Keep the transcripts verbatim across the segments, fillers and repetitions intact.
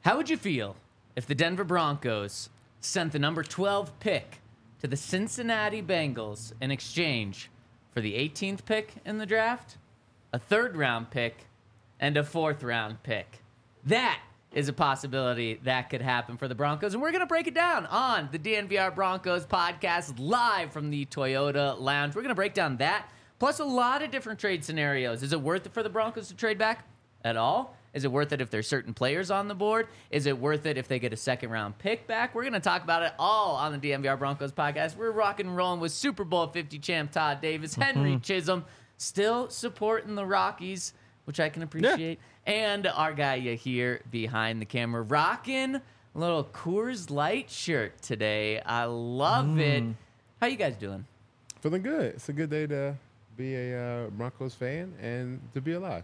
How would you feel if the Denver Broncos sent the number twelve pick to the Cincinnati Bengals in exchange for the eighteenth pick in the draft, a third round pick, and a fourth round pick? That is a possibility that could happen for the Broncos, and we're going to break it down on the D N V R Broncos podcast live from the Toyota Lounge. We're going to break down that, plus a lot of different trade scenarios. Is it worth it for the Broncos to trade back at all? Is it worth it if there's certain players on the board? Is it worth it if they get a second-round pick back? We're going to talk about it all on the D N V R Broncos podcast. We're rock and rolling with Super Bowl fifty champ Todd Davis, Henry mm-hmm. Chisholm, still supporting the Rockies, which I can appreciate. Yeah. And our guy here behind the camera, rocking a little Coors Light shirt today. I love mm. it. How you guys doing? Feeling good. It's a good day to be a uh, Broncos fan and to be alive.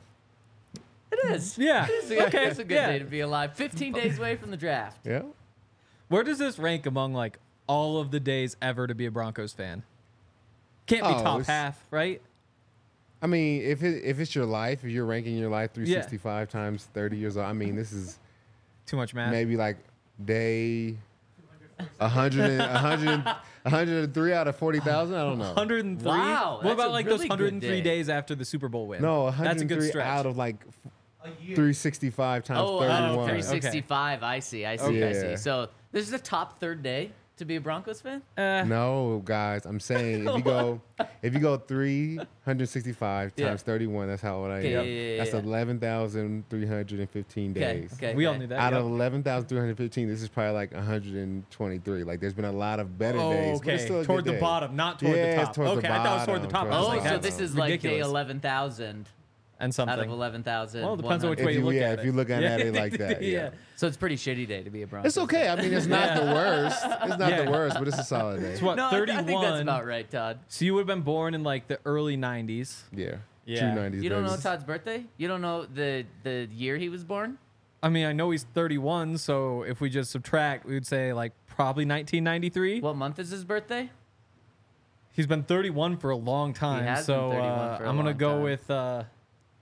It is. Yeah. It is a, okay. It's a good yeah. day to be alive. fifteen days away from the draft. Yeah. Where does this rank among like all of the days ever to be a Broncos fan? Can't be oh, top half, right? I mean, if it, if it's your life, if you're ranking your life three hundred sixty-five yeah. times thirty years old, I mean, this is too much math. Maybe like day one hundred, one hundred, one hundred three out of forty thousand. I don't know. one hundred three. Wow. What about like really those one hundred three day. days after the Super Bowl win? No, one hundred three that's a good stretch. out of like three hundred sixty-five times oh, thirty-one. Oh, three hundred sixty-five. Okay. I see. I see. Okay. I see. So this is the top third day to be a Broncos fan? Uh, no, guys. I'm saying if you go if you go three hundred sixty-five yeah. times thirty-one, that's how old I am. Okay, yeah, yeah, yeah, that's yeah. eleven thousand three hundred fifteen okay, days. Okay, we okay. all knew that. Out yep. of eleven thousand three hundred fifteen, this is probably like one hundred twenty-three. Like there's been a lot of better oh, days. Okay, but it's still a toward good the day. bottom, not toward yeah, the top. Towards okay, the I thought it was toward the top. bottom, I was Oh, like, so that's this is like day ridiculous. eleven thousand and something out of eleven thousand. Well, it depends on which way if you you, look yeah, at if it. you're looking yeah. at it like that, yeah. yeah. So it's a pretty shitty day to be a Broncos. It's okay. I mean, it's not the worst. It's not Yeah. the worst, but it's a solid day. It's what, No, I, thirty-one? I think that's about right, Todd. So you would have been born in like the early nineties. Yeah. Yeah. True nineties. You don't know babies. Todd's birthday? You don't know the the year he was born? I mean, I know he's thirty-one, so if we just subtract, we would say like probably nineteen ninety-three. What month is his birthday? He's been thirty-one for a long time, has so been thirty-one uh, for a I'm gonna long go time. with uh, let's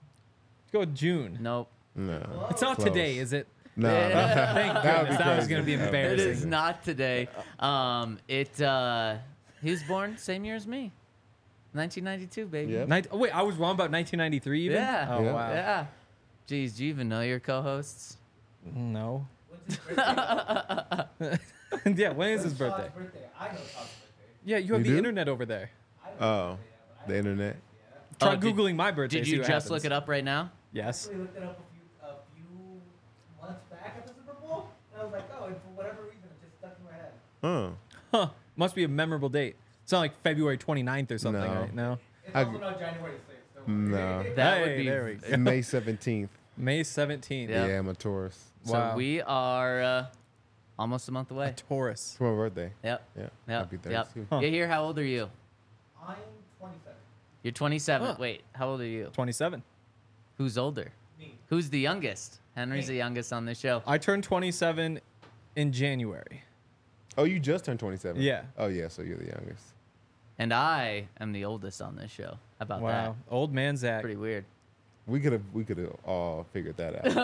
go with June. Nope. No. It's not Close. today, is it? No. Thank That would goodness. be That was crazy. gonna be That would be It embarrassing. is not today. Um, it uh, he was born same year as me, nineteen ninety-two, baby. Yep. Nin- oh, wait, I was wrong about nineteen ninety-three. Even? Yeah. Oh Yeah. wow. Yeah. Jeez, do you even know your co-hosts? No. When's his birthday? Yeah. When is his When's birthday? Todd's birthday? I know Todd's birthday. Yeah, you have You the do? internet over there. I don't Oh, know the internet. Try Oh, did- googling my birthday. Did see you what just happens. look it up right now? Yes. I actually looked it up a few, a few months back at the Super Bowl, and I was like, oh, and for whatever reason, it just stuck in my head. Oh. Huh. Must be a memorable date. It's not like February twenty-ninth or something, No. right? No. It's I- also not January sixth. So No. That Hey, would be. there we go. May seventeenth. May seventeenth. Yeah. Yeah, I'm a Taurus. So Wow. we are uh, almost a month A away. Taurus. It's my birthday. Yep. Yeah. Yep. Happy Yep. thirty-two. Huh. You here? How old are you? I'm twenty-seven. You're twenty-seven. Huh. Wait, how old are you? twenty-seven. Who's older? Me. Who's the youngest? Henry's Me. the youngest on this show. I turned twenty-seven in January. Oh, you just turned twenty-seven? Yeah. Oh, yeah, so you're the youngest. And I am the oldest on this show. How about Wow. Old man that? Zach. Pretty weird. We could have we could have all figured that out.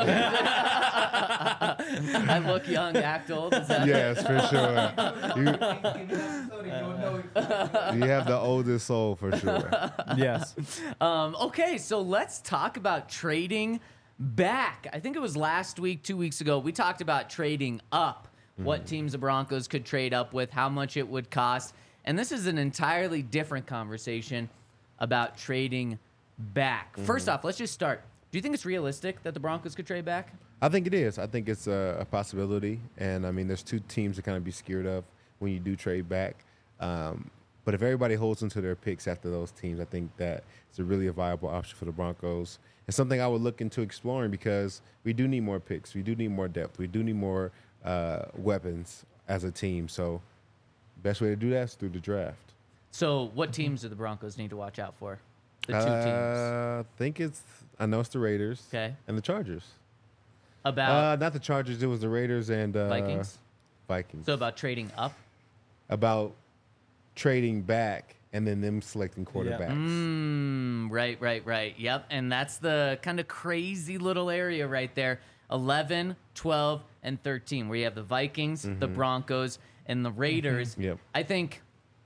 I look young, act old. Is that Yes, for sure. You, Thanksgiving episode, and you'll know exactly. you have the oldest soul for sure. Yes. Um, okay, so let's talk about trading back. I think it was last week, two weeks ago, we talked about trading up, what teams the Broncos could trade up with, how much it would cost. And this is an entirely different conversation about trading back. First off, let's just start. Do you think it's realistic that the Broncos could trade back? I think it is. I think it's a, a possibility. And, I mean, there's two teams to kind of be scared of when you do trade back. Um, but if everybody holds into their picks after those teams, I think that it's a really a viable option for the Broncos. And something I would look into exploring because we do need more picks. We do need more depth. We do need more uh, weapons as a team. So best way to do that is through the draft. So what teams do the Broncos need to watch out for? The two uh, teams. I think it's, I know it's the Raiders Okay. and the Chargers. About Uh, not the Chargers. It was the Raiders and uh, Vikings? Vikings. So about trading up? about trading back and then them selecting quarterbacks. Mm, right, right, right. Yep. And that's the kind of crazy little area right there. eleven, twelve, and thirteen, where you have the Vikings, the Broncos, and the Raiders. Yep. I think,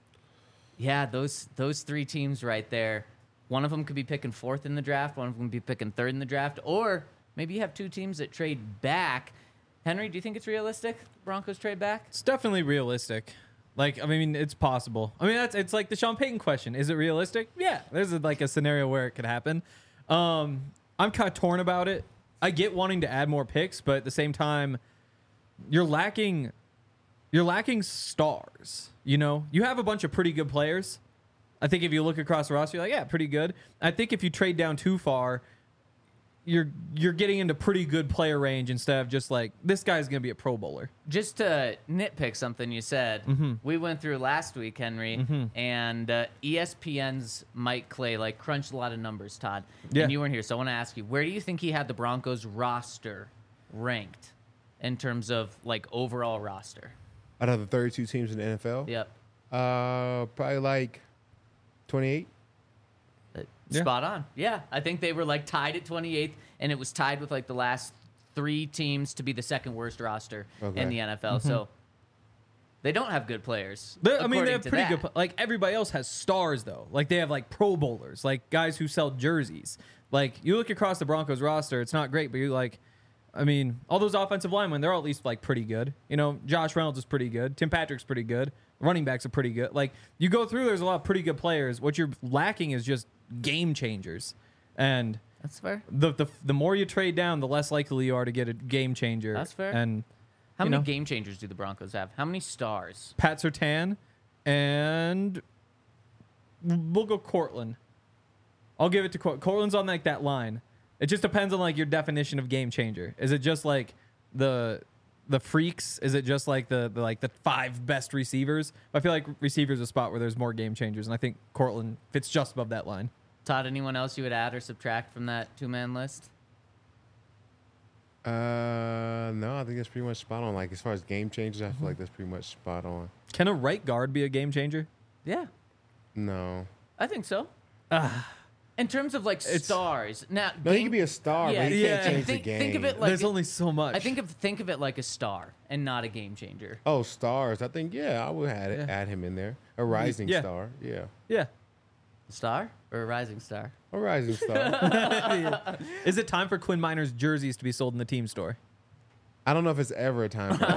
yeah, those those three teams right there. One of them could be picking fourth in the draft. One of them could be picking third in the draft. Or maybe you have two teams that trade back. Henry, do you think it's realistic? Broncos trade back? It's definitely realistic. Like, I mean, it's possible. I mean, that's it's like the Sean Payton question. Is it realistic? Yeah. There's a, like a scenario where it could happen. Um, I'm kind of torn about it. I get wanting to add more picks, but at the same time, you're lacking you're lacking stars. You know? You have a bunch of pretty good players. I think if you look across the roster, you're like, yeah, pretty good. I think if you trade down too far, you're you're getting into pretty good player range instead of just like, this guy's going to be a Pro Bowler. Just to nitpick something you said, Mm-hmm. we went through last week, Henry, and uh, E S P N's Mike Clay like crunched a lot of numbers, Todd. Yeah. And you weren't here, so I want to ask you, where do you think he had the Broncos roster ranked in terms of like overall roster? Out of the thirty-two teams in the N F L, Yep. uh, probably like twenty-eight. Uh, Yeah. Spot on. Yeah, I think they were like tied at twenty-eighth, and it was tied with like the last three teams to be the second worst roster Okay. in the N F L. So they don't have good players. They're, I mean, according they have to pretty that. good. pl- Like everybody else has stars though. Like they have like Pro Bowlers, like guys who sell jerseys. Like you look across the Broncos roster, it's not great, but you like, I mean, all those offensive linemen, they're all at least like pretty good. You know, Josh Reynolds is pretty good. Tim Patrick's pretty good. Running backs are pretty good. Like you go through, there's a lot of pretty good players. What you're lacking is just game changers, and That's fair. the the the more you trade down, the less likely you are to get a game changer. That's fair. And How you many know. game changers do the Broncos have? How many stars? Pat Surtain, and we'll go Cortland. I'll give it to Cort- Cortland's on like that line. It just depends on like your definition of game changer. Is it just like the the freaks? Is it just like the, the like the five best receivers? I feel like receivers is a spot where there's more game changers, and I think Cortland fits just above that line. Todd, anyone else you would add or subtract from that two-man list? Uh, no, I think that's pretty much spot on. Like as far as game changers, I feel like that's pretty much spot on. Can a right guard be a game changer? Yeah, No, I think so. Ah, In terms of like It's- stars, now no, he game- can be a star, Yeah, but he yeah. can't change think, the game. think of it like there's only so much. I think of think of it like a star and not a game changer. Oh, stars. I think yeah, I would add Yeah. add him in there. A rising Yeah. star. Yeah, yeah. A star or a rising star? a rising star. Is it time for Quinn Miner's jerseys to be sold in the team store? I don't know if it's ever a time for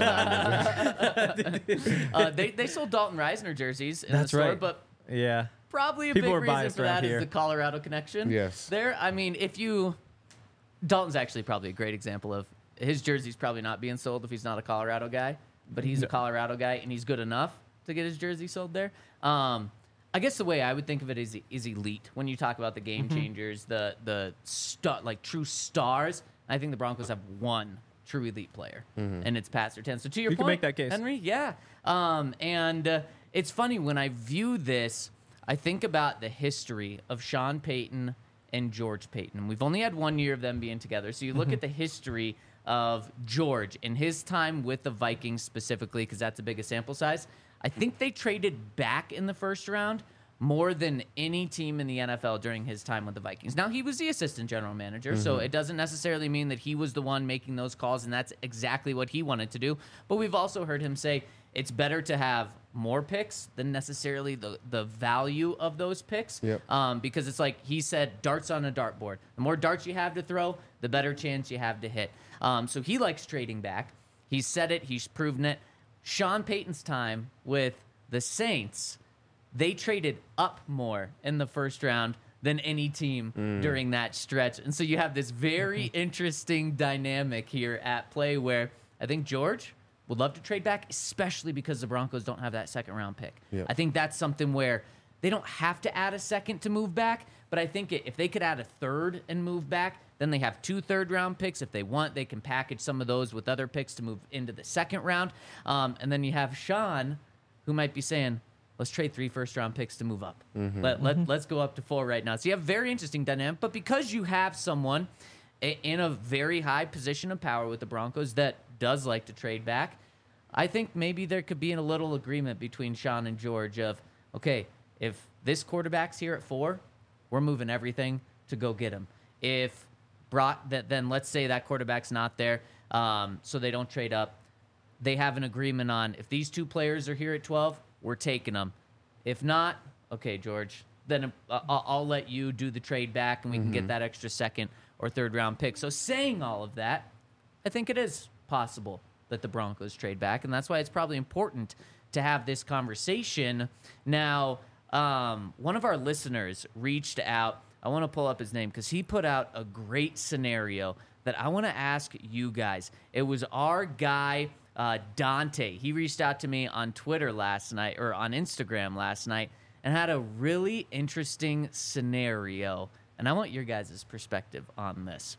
that. Uh, they they sold Dalton Reisner jerseys in That's the store, right. but Yeah. probably a People big are reason biased for around that is here. the Colorado connection. Yes. There, I mean, if you Dalton's actually probably a great example of his jersey's probably not being sold if he's not a Colorado guy, but he's a No. Colorado guy and he's good enough to get his jersey sold there. Um, I guess the way I would think of it is is elite when you talk about the game Mm-hmm. changers, the the star, like true stars. I think the Broncos have one true elite player, and it's Pat Surtain. So to your You can point, make that case. Henry, yeah. Um, and uh, it's funny when I view this, I think about the history of Sean Payton and George Payton. We've only had one year of them being together. So you look Mm-hmm. at the history of George and his time with the Vikings specifically, because that's the biggest sample size. I think they traded back in the first round more than any team in the N F L during his time with the Vikings. Now, he was the assistant general manager, so it doesn't necessarily mean that he was the one making those calls, and that's exactly what he wanted to do. But we've also heard him say it's better to have more picks than necessarily the, the value of those picks. Yep. Um, because it's like he said, darts on a dartboard. The more darts you have to throw, the better chance you have to hit. Um, so he likes trading back. He's said it. He's proven it. Sean Payton's time with the Saints, they traded up more in the first round than any team during that stretch. And so you have this very interesting dynamic here at play where I think George would love to trade back, especially because the Broncos don't have that second round pick. Yep. I think that's something where they don't have to add a second to move back, but I think if they could add a third and move back, then they have two third round picks. If they want, they can package some of those with other picks to move into the second round. Um, and then you have Sean, who might be saying, let's trade three first round picks to move up. Let, let, let's go up to four right now. So you have a very interesting dynamic, but because you have someone i- in a very high position of power with the Broncos that does like to trade back, I think maybe there could be a little agreement between Sean and George of, okay, if this quarterback's here at four, we're moving everything to go get him. If brought that, then let's say that quarterback's not there. um, so they don't trade up. They have an agreement on if these two players are here at twelve, we're taking them. If not, okay, George, then uh, I'll, I'll let you do the trade back, and we can get that extra second or third round pick. So saying all of that, I think it is possible that the Broncos trade back, and that's why it's probably important to have this conversation. Now, um, one of our listeners reached out. I want to pull up his name because he put out a great scenario that I want to ask you guys. It was our guy, uh, Dante. He reached out to me on Twitter last night, or on Instagram last night, and had a really interesting scenario. And I want your guys' perspective on this.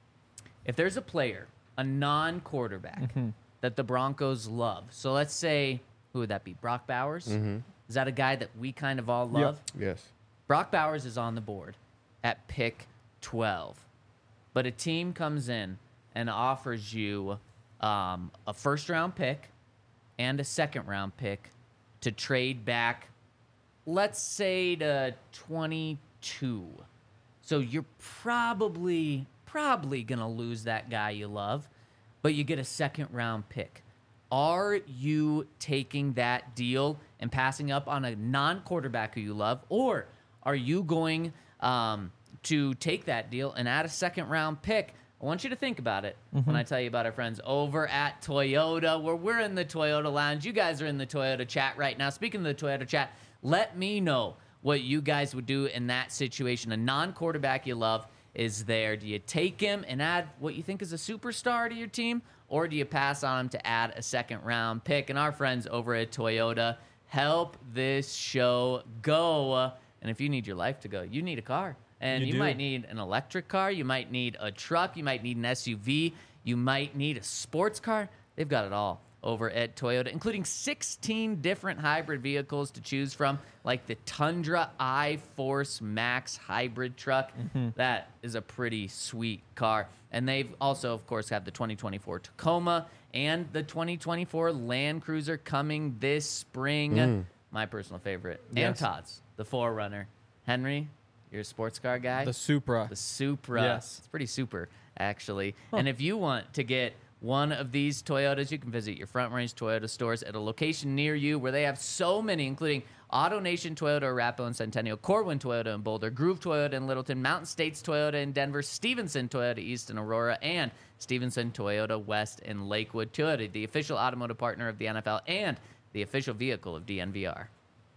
If there's a player, a non-quarterback, Mm-hmm. that the Broncos love. So let's say, who would that be? Brock Bowers? Mm-hmm. Is that a guy that we kind of all love? Yes. Brock Bowers is on the board at pick twelve. But a team comes in and offers you um, a first-round pick and a second-round pick to trade back, let's say, to twenty-two. So you're probably, probably going to lose that guy you love, but you get a second-round pick. Are you taking that deal and passing up on a non-quarterback who you love, or are you going um, to take that deal and add a second-round pick? I want you to think about it when I tell you about our friends over at Toyota, where we're in the Toyota Lounge. You guys are in the Toyota chat right now. Speaking of the Toyota chat, let me know what you guys would do in that situation. A non-quarterback you love is there. Do you take him and add what you think is a superstar to your team, or do you pass on him to add a second-round pick? And our friends over at Toyota help this show go. And if you need your life to go, you need a car. And You you, do. might need an electric car. You might need a truck. You might need an S U V. You might need a sports car. They've got it all over at Toyota, including sixteen different hybrid vehicles to choose from, like the Tundra iForce Max hybrid truck. That is a pretty sweet car. And they've also, of course, have the twenty twenty-four Tacoma and the twenty twenty-four Land Cruiser coming this spring. My personal favorite. And Yes. Todd's, the four runner. Henry, you're a sports car guy? The Supra. The Supra. Yes. It's pretty super, actually. And if you want to get one of these Toyotas, you can visit your Front Range Toyota stores at a location near you where they have so many, including AutoNation Toyota, Arapahoe and Centennial, Corwin Toyota in Boulder, Groove Toyota in Littleton, Mountain States Toyota in Denver, Stevenson Toyota East in Aurora, and Stevenson Toyota West in Lakewood. Toyota, the official automotive partner of the N F L and the official vehicle of D N V R.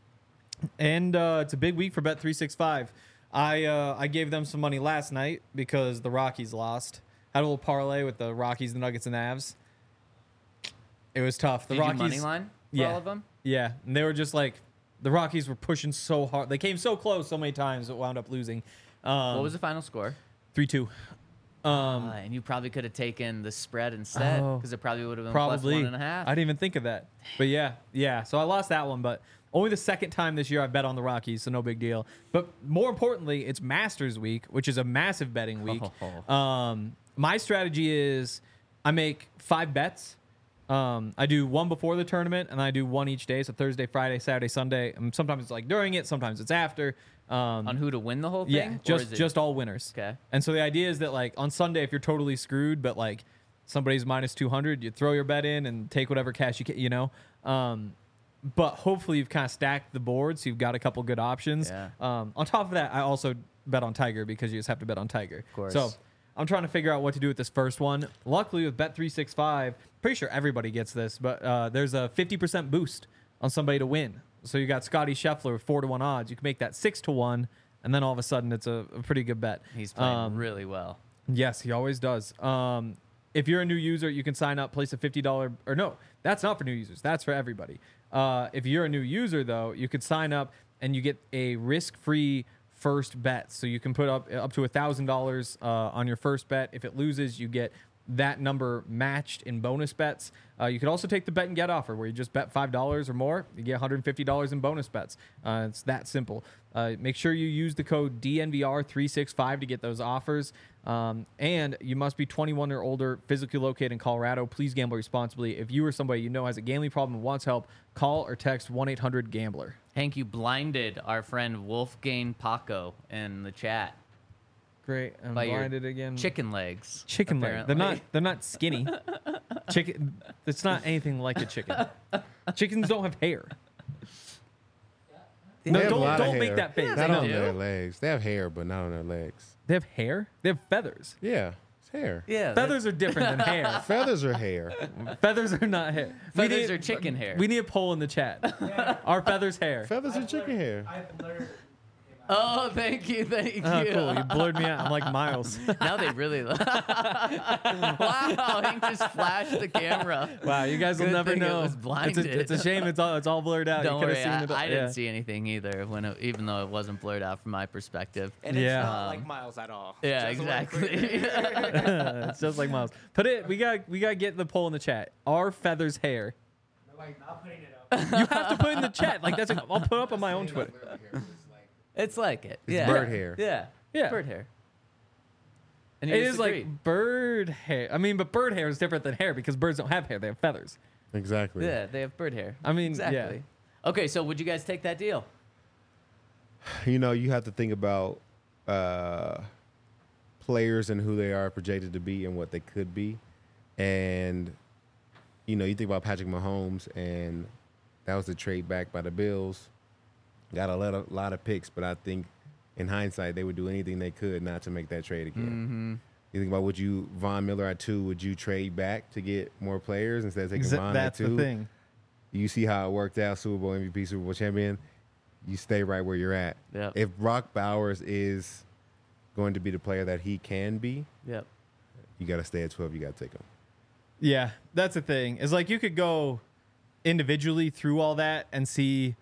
And uh, it's a big week for Bet three sixty-five. I uh, I gave them some money last night because the Rockies lost. Had a little parlay with the Rockies, the Nuggets, and the Avs. It was tough. The Did Rockies, you money line for yeah, all of them? Yeah, and they were just like the Rockies were pushing so hard. They came so close so many times, it wound up losing. Um, What was the final score? three two? Um, Uh, and you probably could have taken the spread instead, Oh. because it probably would have been Probably. plus one and a half. I didn't even think of that. But yeah, yeah. So I lost that one, but only the second time this year I've bet on the Rockies, so no big deal. But more importantly, it's Masters Week, which is a massive betting week. Um, my strategy is I make five bets. Um, I do one before the tournament, and I do one each day. So Thursday, Friday, Saturday, Sunday. And sometimes it's like during it, sometimes it's after. Um, On who to win the whole thing? yeah, Or just is it- just all winners. Okay. And so the idea is that like on Sunday, if you're totally screwed, but like somebody's minus two hundred, you throw your bet in and take whatever cash you can, you know. Um, but hopefully you've kind of stacked the board, so you've got a couple good options. Yeah. Um, on top of that, I also bet on Tiger because you just have to bet on Tiger. Of course. So I'm trying to figure out what to do with this first one. Luckily with Bet three sixty-five, pretty sure everybody gets this, but uh, there's a fifty percent boost on somebody to win. So you got Scotty Scheffler with four to one odds. You can make that six to one, and then all of a sudden it's a, a pretty good bet. He's playing Um, really well. Yes, he always does. Um, if you're a new user, you can sign up, place a fifty dollars, or no, that's not for new users. That's for everybody. Uh, if you're a new user, though, you could sign up and you get a risk-free first bet. So you can put up up to one thousand dollars uh, on your first bet. If it loses, you get that number matched in bonus bets. Uh, you could also take the bet and get offer where you just bet five dollars or more, you get one hundred fifty dollars in bonus bets. Uh, it's that simple. Uh, make sure you use the code D N V R three sixty-five to get those offers. Um, and you must be twenty-one or older, physically located in Colorado. Please gamble responsibly. If you or somebody you know has a gambling problem and wants help, call or text one eight hundred gambler. Hank, you blinded our friend Wolfgang Paco in the chat. Great. I'm By your blinded again. Chicken legs. Chicken leg. They're apparently. not. They're not skinny. Chicken. It's not anything like a chicken. Chickens don't have hair. No, They have a don't lot of don't make hair. that face. Not they on do. their legs. They have hair, but not on their legs. They have hair. They have feathers. Yeah, it's hair. Yeah. Feathers are different than hair. Feathers are hair. Feathers are not hair. We Feathers need- are chicken hair. We need a poll in the chat. Are feathers hair? Feathers are I've chicken blurred- hair. I've blurred him out. Oh, thank you, thank you. Oh, cool. You blurred me out. I'm like Miles. Now they really. wow, Hank just flashed the camera. Wow, you guys will Good never thing it know. was It's blinded. a, it's a shame. It's all it's all blurred out. Don't you coulda worry, seen I, it. I didn't yeah. see anything either. When it, even though it wasn't blurred out from my perspective. And Yeah. it's not Um, like Miles at all. Yeah, Just to let it clear. exactly. It's just like Miles. Put it. We got we got to get the poll in the chat. Are feathers hair? Like, not putting it up. You have to put it in the chat. Like that's. A, I'll put it up on my own Twitter. It's like it. It's yeah. bird hair. Yeah. Yeah. Bird hair. And you It is disagree. like bird hair. I mean, but bird hair is different than hair because birds don't have hair; they have feathers. Exactly. Yeah, they have bird hair. I mean, exactly. yeah. Okay, so would you guys take that deal? You know, you have to think about uh, players and who they are projected to be and what they could be. And, you know, you think about Patrick Mahomes, and that was the trade back by the Bills. Got a lot of, lot of picks, but I think in hindsight, they would do anything they could not to make that trade again. Mm-hmm. You think about would you, Von Miller at two, would you trade back to get more players instead of taking Exa- Von that's at two? the thing. You see how it worked out, Super Bowl M V P, Super Bowl champion. You stay right where you're at. Yep. If Brock Bowers is going to be the player that he can be, Yep. you got to stay at twelve. You got to take him. Yeah, that's the thing. It's like you could go individually through all that and see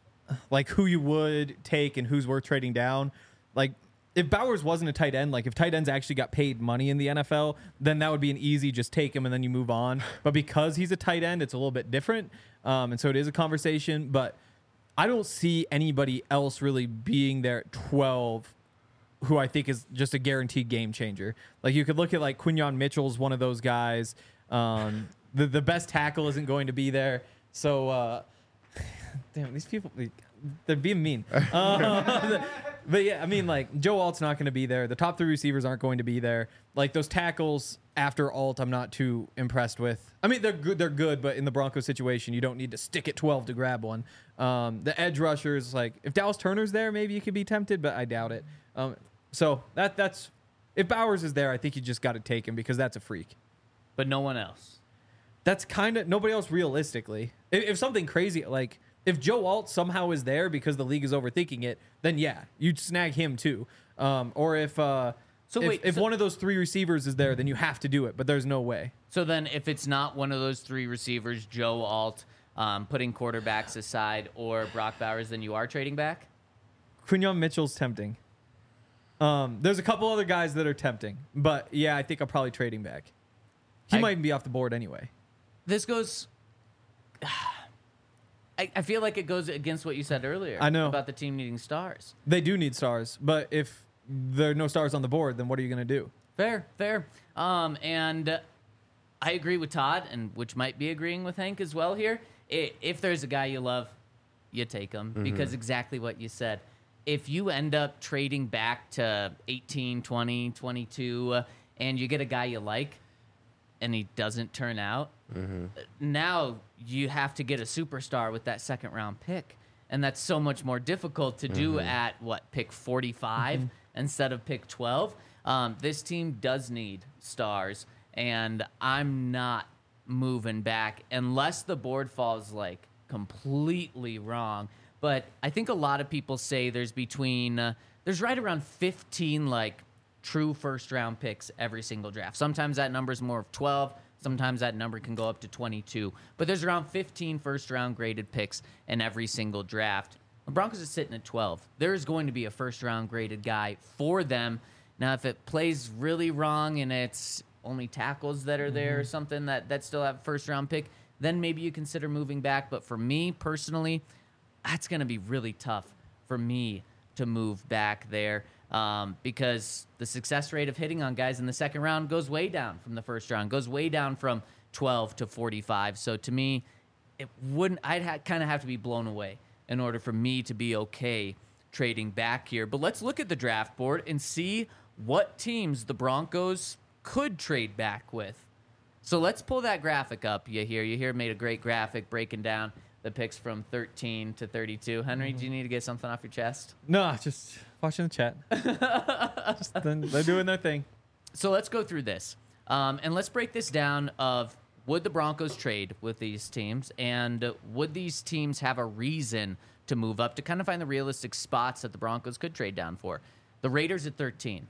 like who you would take and who's worth trading down. Like if Bowers wasn't a tight end, like if tight ends actually got paid money in the N F L, then that would be an easy just take him and then you move on. But because he's a tight end, it's a little bit different. Um, and so it is a conversation, but I don't see anybody else really being there at twelve who I think is just a guaranteed game changer. Like you could look at like Quinyon Mitchell's one of those guys. Um, the the best tackle isn't going to be there. So uh, damn, these people they're being mean. Uh, but yeah, I mean like Joe Alt's not going to be there. The top three receivers aren't going to be there. Like those tackles after Alt, I'm not too impressed with. I mean they're good, they're good, but in the Broncos situation, you don't need to stick at twelve to grab one. Um, the edge rushers, like if Dallas Turner's there, maybe you could be tempted, but I doubt it. Um, so that that's if Bowers is there, I think you just got to take him because that's a freak. But no one else. That's kind of nobody else realistically. If, if something crazy like if Joe Alt somehow is there because the league is overthinking it, then yeah, you'd snag him too. Um, or if uh, So if, wait, if so- one of those three receivers is there, then you have to do it. But there's no way. So then, if it's not one of those three receivers, Joe Alt, um, putting quarterbacks aside, or Brock Bowers, then you are trading back? Quinyon Mitchell's tempting. Um, there's a couple other guys that are tempting, but yeah, I think I'm probably trading back. He I- might be off the board anyway. This goes. I, I feel like it goes against what you said earlier. I know. About the team needing stars. They do need stars, but if there are no stars on the board, then what are you going to do? Fair, fair. Um, and uh, I agree with Todd, and which might be agreeing with Hank as well here. I if there's a guy you love, you take him because exactly what you said. If you end up trading back to eighteen, twenty, twenty-two, uh, and you get a guy you like, and he doesn't turn out, now you have to get a superstar with that second round pick. And that's so much more difficult to do at what, pick forty-five instead of pick twelve. Um, this team does need stars, and I'm not moving back unless the board falls like completely wrong. But I think a lot of people say there's between, uh, there's right around fifteen like true first round picks every single draft. Sometimes that number is more of twelve. Sometimes that number can go up to twenty-two. But there's around fifteen first round graded picks in every single draft. The Broncos are sitting at twelve. There is going to be a first round graded guy for them. Now, if it plays really wrong and it's only tackles that are there or something that, that still have a first round pick, then maybe you consider moving back. But for me personally, that's going to be really tough for me to move back there. Um, because the success rate of hitting on guys in the second round goes way down from the first round, goes way down from twelve to forty-five. So to me, it wouldn't. I'd ha- kind of have to be blown away in order for me to be okay trading back here. But let's look at the draft board and see what teams the Broncos could trade back with. So let's pull that graphic up. You hear, you hear made a great graphic breaking down the picks from thirteen to thirty-two. Henry, do you need to get something off your chest? No, just watching the chat. Just, then they're doing their thing. So let's go through this. Um, and let's break this down of would the Broncos trade with these teams, and would these teams have a reason to move up to kind of find the realistic spots that the Broncos could trade down for. The Raiders at thirteen.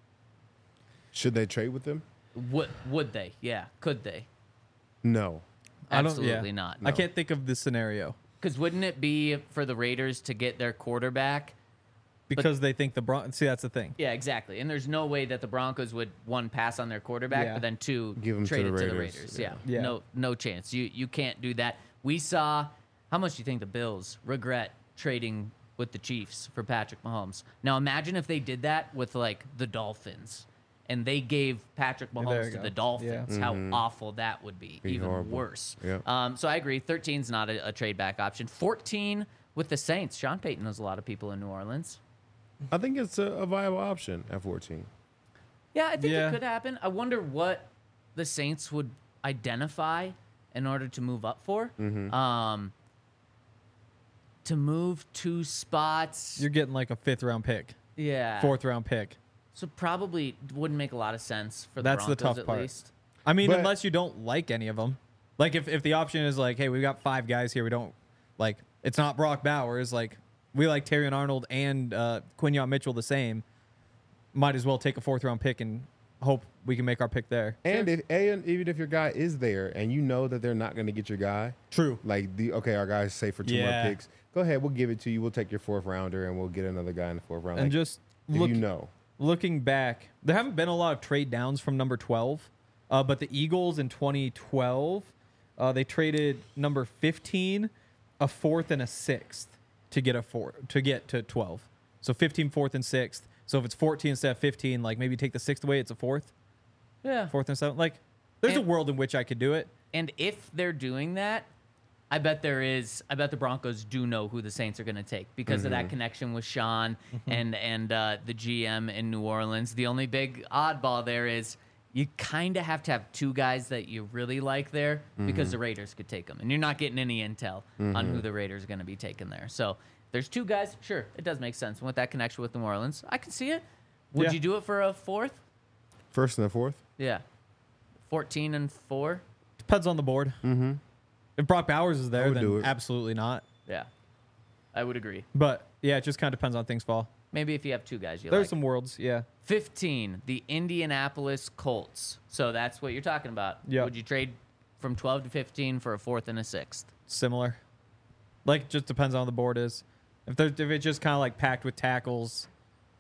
Should they trade with them? Would, would they? Yeah. Could they? No. I don't- Absolutely yeah. not. I can't think of this scenario Because wouldn't it be for the Raiders to get their quarterback? because they think the Bron. See, that's the thing. Yeah, exactly. And there's no way that the Broncos would, one, pass on their quarterback, Yeah. but then two, Give 'em to trade the it to the Raiders. Raiders. Yeah. Yeah. Yeah. No, no chance. You you can't do that. We saw how much do you think the Bills regret trading with the Chiefs for Patrick Mahomes? Now imagine if they did that with like the Dolphins, and they gave Patrick There Mahomes you to go. the Dolphins. Yeah. How awful that would be. Be Even horrible. worse. Yeah. Um, so I agree. thirteen is not a, a trade back option. fourteen with the Saints. Sean Payton knows a lot of people in New Orleans. I think it's a, a viable option at fourteen. Yeah, I think Yeah. it could happen. I wonder what the Saints would identify in order to move up for. Mm-hmm. Um, to move two spots. You're getting like a fifth round pick, yeah. fourth round pick. So probably wouldn't make a lot of sense for the That's the Broncos tough at part. least. I mean, But- unless you don't like any of them. Like if, if the option is like, hey, we got five guys here, we don't like. It's not Brock Bowers. Like we like Terrion Arnold and uh, Quinyon Mitchell the same. Might as well take a fourth round pick and hope we can make our pick there. And if and even if your guy is there and you know that they're not going to get your guy, True. like the okay, our guy's safe for two Yeah. more picks. Go ahead, we'll give it to you. We'll take your fourth rounder and we'll get another guy in the fourth round. And Like, just if look, you know, looking back, there haven't been a lot of trade downs from number twelve, uh, but the Eagles in twenty twelve, uh, they traded number fifteen, a fourth, and a sixth to get a four to get to twelve. So fifteen, fourth, and sixth. So if it's fourteen instead of fifteen, like maybe take the sixth away, it's a fourth, Yeah. fourth and seventh. Like there's And- a world in which I could do it. And if they're doing that, I bet there is. I bet the Broncos do know who the Saints are going to take because of that connection with Sean and and uh, the G M in New Orleans. The only big oddball there is you kind of have to have two guys that you really like there because the Raiders could take them, and you're not getting any intel on who the Raiders are going to be taking there. So if there's two guys. Sure, it does make sense. And with that connection with New Orleans, I can see it. Would Yeah. you do it for a fourth? first and the fourth. Yeah, fourteen and four. Depends on the board. Mm-hmm. If Brock Bowers is I there, would do then it. absolutely not. Yeah, I would agree. But yeah, it just kind of depends on things fall. Maybe if you have two guys you There's like. some worlds, yeah. fifteen, the Indianapolis Colts. So that's what you're talking about. Yep. Would you trade from twelve to fifteen for a fourth and a sixth? Similar. Like, just depends on how the board is. If there, if it's just kind of like packed with tackles,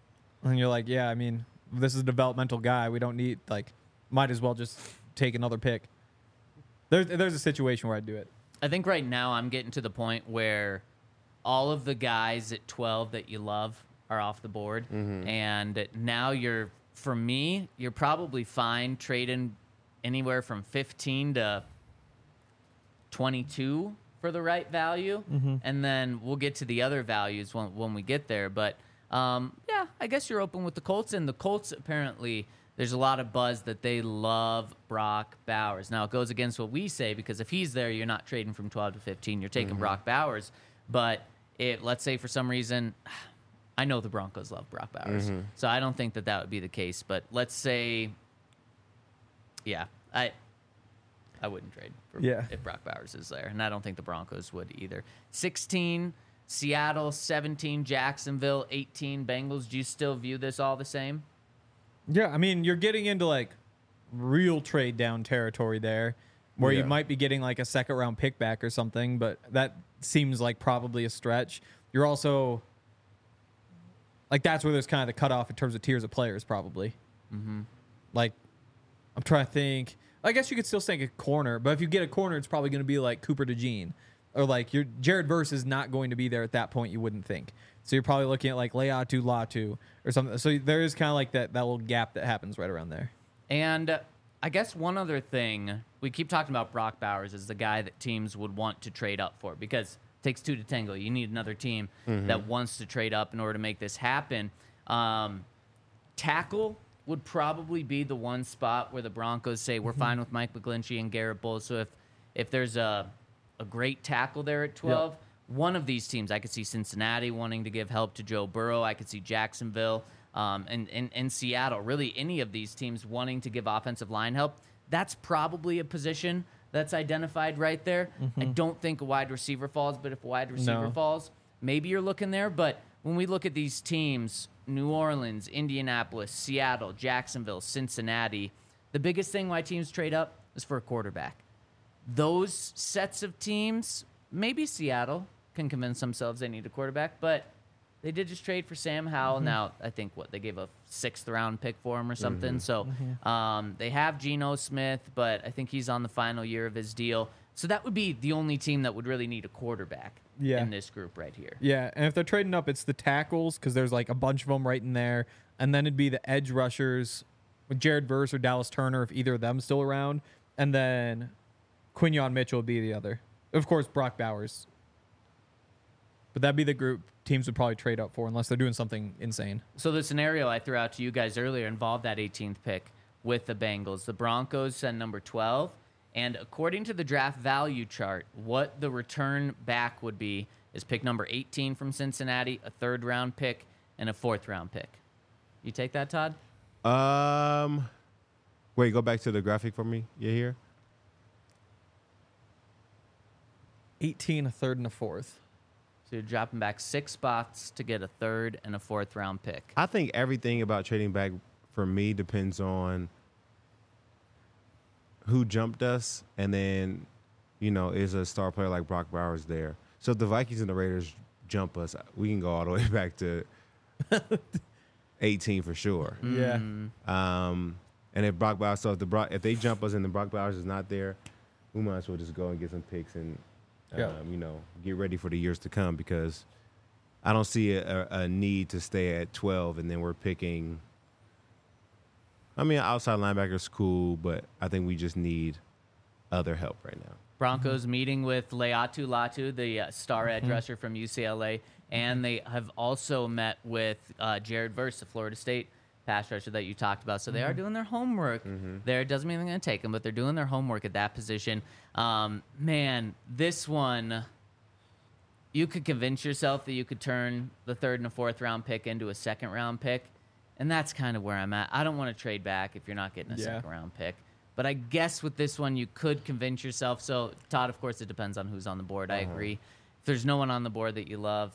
and you're like, yeah, I mean, this is a developmental guy. We don't need like, might as well just take another pick. There's there's a situation where I'd do it. I think right now I'm getting to the point where all of the guys at twelve that you love are off the board. And now you're, for me, you're probably fine trading anywhere from fifteen to twenty-two for the right value. And then we'll get to the other values when, when we get there. But um, yeah, I guess you're open with the Colts. And the Colts, apparently, there's a lot of buzz that they love Brock Bowers. Now, it goes against what we say because if he's there, you're not trading from twelve to fifteen. You're taking Brock Bowers. But it, let's say for some reason, I know the Broncos love Brock Bowers. So I don't think that that would be the case. But let's say, yeah, I I wouldn't trade for Yeah. if Brock Bowers is there. And I don't think the Broncos would either. sixteen, Seattle. seventeen, Jacksonville. eighteen, Bengals. Do you still view this all the same? Yeah, I mean, you're getting into like real trade down territory there, where Yeah. you might be getting like a second round pick back or something, but that seems like probably a stretch. You're also like, that's where there's kind of the cutoff in terms of tiers of players, probably. Mm-hmm. Like, I'm trying to think. I guess you could still think a corner, but if you get a corner, it's probably going to be like Cooper DeJean, or like your Jared Verse is not going to be there at that point. You wouldn't think. So you're probably looking at like Leatu Latu or something. So there is kind of like that that little gap that happens right around there. And uh, I guess one other thing, we keep talking about Brock Bowers as the guy that teams would want to trade up for because it takes two to tango. You need another team that wants to trade up in order to make this happen. Um, tackle would probably be the one spot where the Broncos say we're fine with Mike McGlinchey and Garrett Bowles. So if if there's a a great tackle there at twelve, Yep. one of these teams, I could see Cincinnati wanting to give help to Joe Burrow. I could see Jacksonville um, and, and, and Seattle. Really, any of these teams wanting to give offensive line help. That's probably a position that's identified right there. I don't think a wide receiver falls, but if a wide receiver No. falls, maybe you're looking there. But when we look at these teams, New Orleans, Indianapolis, Seattle, Jacksonville, Cincinnati, the biggest thing why teams trade up is for a quarterback. Those sets of teams, maybe Seattle can convince themselves they need a quarterback, but they did just trade for Sam Howell. Now, I think, what, they gave a sixth round pick for him or something. So um, they have Geno Smith, but I think he's on the final year of his deal. So that would be the only team that would really need a quarterback Yeah. in this group right here. Yeah, and if they're trading up, it's the tackles because there's like a bunch of them right in there, and then it'd be the edge rushers with Jared Verse or Dallas Turner if either of them still around, and then Quinyon Mitchell would be the other. Of course, Brock Bowers. But that'd be the group teams would probably trade up for unless they're doing something insane. So the scenario I threw out to you guys earlier involved that eighteenth pick with the Bengals. The Broncos send number twelve, and according to the draft value chart, what the return back would be is pick number eighteen from Cincinnati, a third round pick, and a fourth round pick. You take that, Todd? Um, wait, go back to the graphic for me. You here? eighteen, a third, and a fourth. So you're dropping back six spots to get a third and a fourth round pick. I think everything about trading back for me depends on who jumped us, and then, you know, is a star player like Brock Bowers there. So if the Vikings and the Raiders jump us, we can go all the way back to eighteen for sure. Yeah. Um, and if Brock Bowers, so if the Brock, if they jump us and the Brock Bowers is not there, we might as well just go and get some picks and, um, Yeah. you know, get ready for the years to come, because I don't see a, a need to stay at twelve and then we're picking. I mean, outside linebacker's cool, but I think we just need other help right now. Broncos meeting with Leatu Latu, the uh, star edge rusher from U C L A, and they have also met with uh, Jared Verse, the Florida State pass rusher that you talked about. So they are doing their homework there. It doesn't mean they're going to take them, but they're doing their homework at that position. Um, man, this one, you could convince yourself that you could turn the third and a fourth round pick into a second round pick, and that's kind of where I'm at. I don't want to trade back if you're not getting a Yeah. second round pick. But I guess with this one, you could convince yourself. So, Todd, of course, it depends on who's on the board. I agree. If there's no one on the board that you love,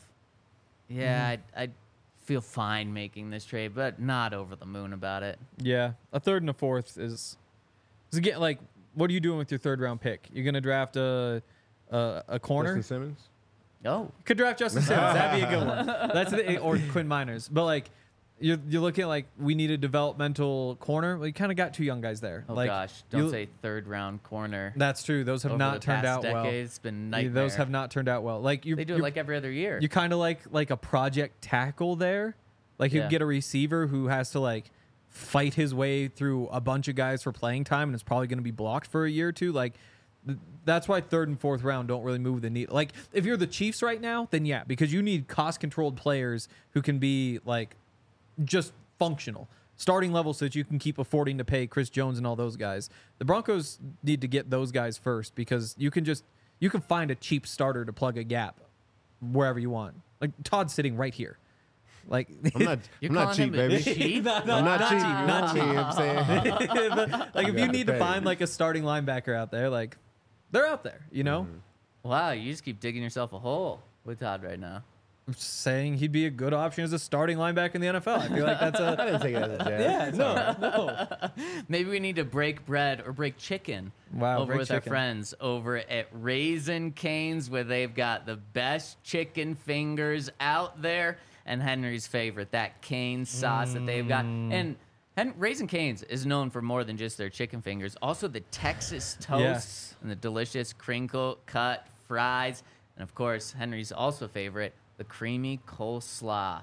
yeah, I'd, I'd feel fine making this trade, but not over the moon about it. Yeah. A third and a fourth is, is again, like, what are you doing with your third round pick? You're going to draft a, a, a corner? Justin Simmons? Oh, Could draft Justin Simmons. That'd be a good one. That's the, or Quinn Miners. But like, you're you're looking at like we need a developmental corner. Well, you kind of got two young guys there. oh like, gosh. Don't you- say third round corner. That's true. Those have Over not the turned past out well. decade, It's been Yeah, nightmare. Those have not turned out well. Like you, They do it you're- like every other year. you kind of like like a project tackle there. Like you Yeah. get a receiver who has to like fight his way through a bunch of guys for playing time, and it's probably going to be blocked for a year or two. Like th- that's why third and fourth round don't really move the needle. Like if you're the Chiefs right now, then yeah, because you need cost controlled players who can be like just functional. Starting level so that you can keep affording to pay Chris Jones and all those guys. The Broncos need to get those guys first because you can just you can find a cheap starter to plug a gap wherever you want. Like Todd's sitting right here. Like I'm not, You're I'm not calling cheap, him a baby. cheap? No, no, I'm not, not cheap. cheap, You not know what I'm saying? But, like if You you got need to to pay. find like a starting linebacker out there, like they're out there, you know? Wow, you just keep digging yourself a hole with Todd right now. I'm just saying he'd be a good option as a starting linebacker in the N F L. I feel like that's I a didn't take it as a jab. yeah, no, no. Maybe we need to break bread or break chicken Wow, over break with our chicken. friends over at Raisin Cane's, where they've got the best chicken fingers out there, and Henry's favorite, that cane sauce that they've got. Mm. And Hen- Raisin Cane's is known for more than just their chicken fingers, also the Texas toast Yes. and the delicious crinkle cut fries, and of course Henry's also favorite, the creamy coleslaw.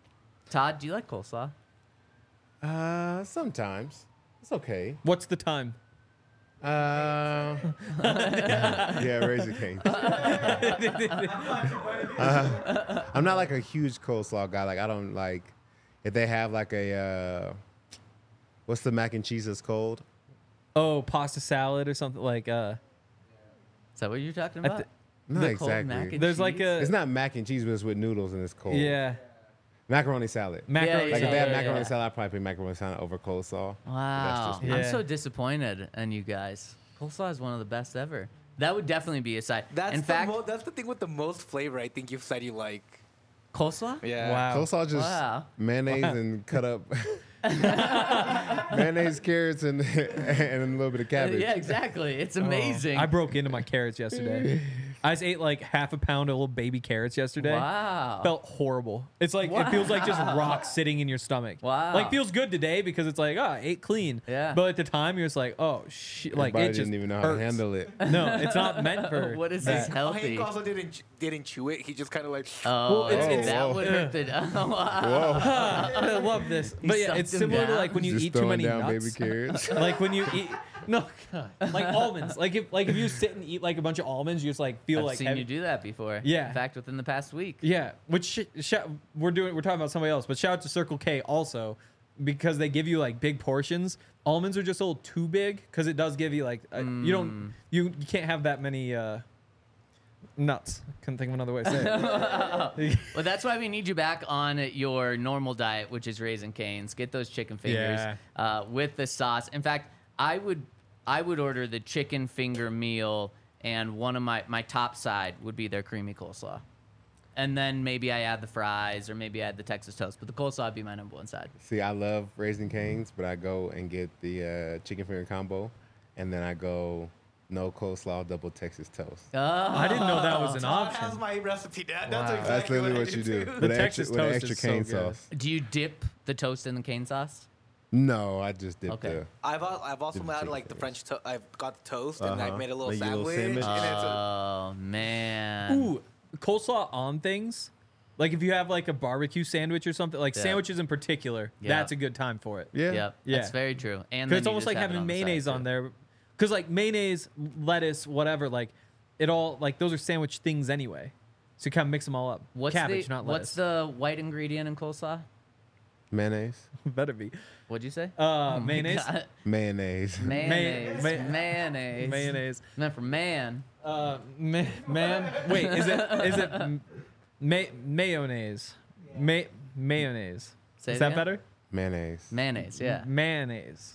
Todd, do you like coleslaw? Uh, sometimes. It's okay. What's the time? Uh, yeah, Razor King. Uh, I'm not like a huge coleslaw guy. Like I don't like if they have like a uh, what's the mac and cheese that's cold? Oh, pasta salad or something like. uh Is that what you're talking I about? th- Not The cold exactly. mac and There's like cheese? a It's not mac and cheese, but it's with noodles and it's cold. yeah Macaroni salad. macaroni. yeah, Like if they yeah, have yeah, macaroni yeah. salad, I'd probably put macaroni salad over coleslaw. Wow. just me. I'm Yeah. so disappointed in you guys. Coleslaw is one of the best ever. That would definitely be a side. That's in the fact, mo- that's the thing with the most flavor. I think you've said you like. coleslaw? Yeah. Wow. Coleslaw just Wow. mayonnaise Wow. and cut up mayonnaise, carrots, and and a little bit of Uh, cabbage. yeah, exactly. It's Oh, amazing. I broke into my carrots yesterday. I just ate like half a pound of little baby carrots yesterday. Wow. Felt horrible. It's like it feels like just rocks sitting in your stomach. Wow. Like feels good today because it's like, oh, I ate clean. Yeah. But at the time you're just like, oh shit, Your like body it just didn't even know how hurts. to handle it. No, it's not meant for. What is that. this healthy? Hank also didn't ch- didn't chew it. He just kind of like. Oh, Well, it's- it's- that would yeah. hurt the. Oh, wow. Whoa. I love this. But yeah, sucked it's him similar to down? like when you Just eat too throwing many down nuts. baby carrots. Like when you eat no, God, like almonds. Like if like if you sit and eat like a bunch of almonds, you just like feel I've like seen heavy. you do that before. Yeah. In fact, within the past week. Yeah, which sh- sh- we're doing. We're talking about somebody else, but shout out to Circle K also because they give you like big portions. Almonds are just a little too big because it does give you like uh, you don't you you can't have that many uh, nuts. Couldn't think of another way to say it. Well, that's why we need you back on your normal diet, which is Raisin Cane's. Get those chicken fingers Yeah. uh, with the sauce. In fact, I would I would order the chicken finger meal, and one of my my top side would be their creamy coleslaw, and then maybe I add the fries or maybe I add the Texas toast. But the coleslaw would be my number one side. See, I love Raising Cane's, but I go and get the uh, chicken finger combo, and then I go no coleslaw, double Texas toast. Oh, I didn't know that was an Todd has option. my recipe. That, Wow. That's That's exactly That's literally what, what, I you do. do. too. With The an Texas extra, with an toast extra is so cane good. sauce. Do you dip the toast in the cane sauce? No, I just did Okay. the. I've al- I've also Dip made chicken like the fingers. French. To- I've got the toast and Uh-huh. I've made a little Make your little sandwich. sandwich. and it's a, Oh man. Ooh, coleslaw on things. Like if you have like a barbecue sandwich or something, like Yeah. sandwiches in particular, Yeah. that's a good time for it. Yeah. Yep. Yeah. That's very true. And Because then it's you almost just like have it having on the side, mayonnaise too. on there. Because like mayonnaise, lettuce, whatever, like it all like those are sandwich things anyway. So you kind of mix them all up. What's Cabbage, the, not What's lettuce. the white ingredient in coleslaw? Mayonnaise. Better be. What'd you say? Uh, Oh my mayonnaise. God. Mayonnaise. Mayonnaise. May- mayonnaise. Mayonnaise. Meant for man. Uh, ma- man. Wait, is it is it m- ma- mayonnaise? Ma- mayonnaise. Say is it that again? better? Mayonnaise. Mayonnaise, yeah. Mayonnaise.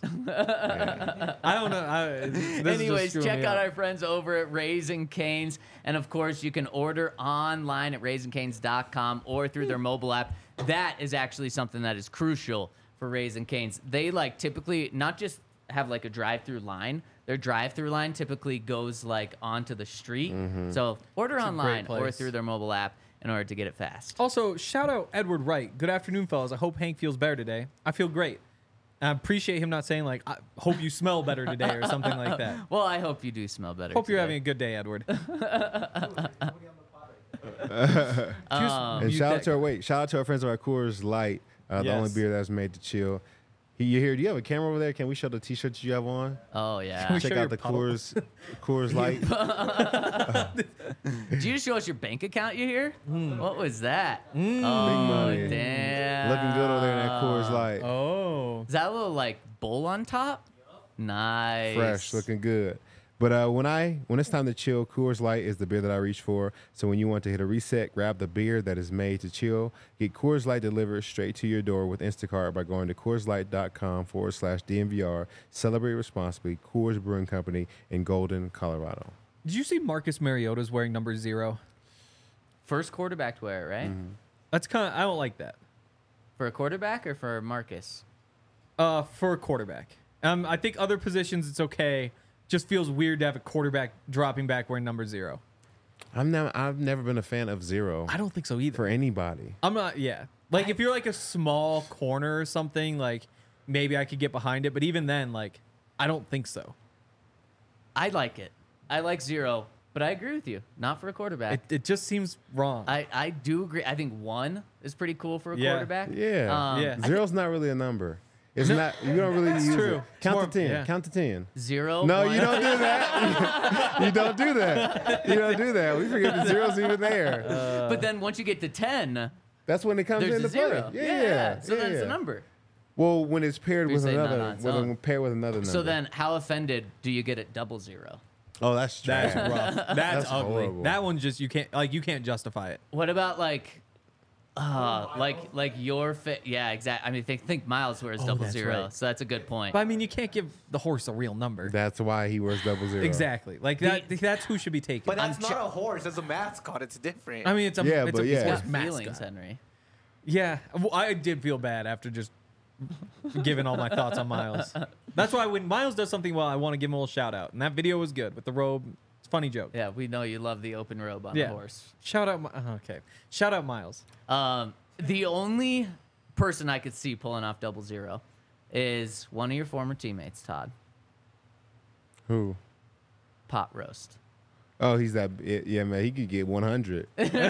Yeah. I don't know. I, this is just Anyways, screwing check me out up. our friends over at Raising Cane's. And of course, you can order online at raisin canes dot com or through their mobile app. That is actually something that is crucial for Raising Cane's. They like typically not just have like a drive-through line. Their drive-through line typically goes like onto the street. So order a great online or place. through their mobile app in order to get it fast. Also, shout out Edward Wright. Good afternoon, fellas. I hope Hank feels better today. I feel great. I appreciate him not saying like, I hope you smell better today or something like that. Well, I hope you do smell better. Hope you're today. having a good day, Edward. Nobody on the pod right now. Um, And You shout out that- to our wait, shout out to our friends over at Coors Light, uh, the only Yes. beer that's made to chill. He, you here? Do you have a camera over there? Can we show the T-shirts you have on? Oh we yeah. Check show out your the puddle? Coors Coors Light. Did you just show us your bank account? You here? Hmm. What was that? Oh Big money. damn! Looking good over there in that Coors Light. Oh. Is that a little like bowl on top? Nice. Fresh, looking good. But uh, when I when it's time to chill, Coors Light is the beer that I reach for. So when you want to hit a reset, grab the beer that is made to chill. Get Coors Light delivered straight to your door with Instacart by going to CoorsLight.com forward slash DNVR. Celebrate responsibly. Coors Brewing Company in Golden, Colorado. Did you see Marcus Mariota's wearing number zero? First quarterback to wear it, right? Mm-hmm. That's kind of I don't like that. For a quarterback or for Marcus? Uh, for a quarterback. Um, I think other positions it's okay. Just feels weird to have a quarterback dropping back wearing number zero. I'm never I've never been a fan of zero I don't think so either. for anybody. I'm not. Yeah. Like if you're like a small corner or something, like maybe I could get behind it. But even then, like I don't think so. I like it. I like zero, but I agree with you. Not for a quarterback. It, it just seems wrong. I, I do agree. I think one is pretty cool for a Yeah. quarterback. Yeah. Um, Yeah. Zero's not really a number. It's not. You don't really That's use true. it. It's Count more- to ten. yeah. Count to ten. Zero. No, one. you don't do that. you don't do that. You don't do that. We forget the zero's even there. But then once you get to ten, That's That's when it comes There's into a zero. play. Yeah, yeah. So yeah, that's yeah. the number. Well, when it's paired You're with saying not another, on its when own. it's paired with another number. So then, how offended do you get at double zero? oh, that's trash. That's rough. That's, That's ugly. horrible. That one's just you can't like you can't justify it. What about like, uh, like like your fit? Yeah, exactly. I mean, think think Miles wears Oh, double that's zero, right. so that's a good point. But I mean, you can't give the horse a real number. That's why he wears double zero. Exactly. Like that. that's who should be taken. But that's I'm not che- a horse. That's a mascot. It's different. I mean, it's a Yeah, it's but a yeah. it's Got a horse feelings, mascot. Henry. Yeah, well, I did feel bad after just giving all my thoughts on Miles. That's why when Miles does something well, I want to give him a little shout out. And that video was good with the robe. It's a funny joke. Yeah, we know you love the open robe on Yeah. the horse. Shout out. Mi- uh, Okay. Shout out Miles. Um, the only person I could see pulling off double zero is one of your former teammates, Todd. Who? Pot roast. Oh, he's that. Yeah, man. He could get one hundred.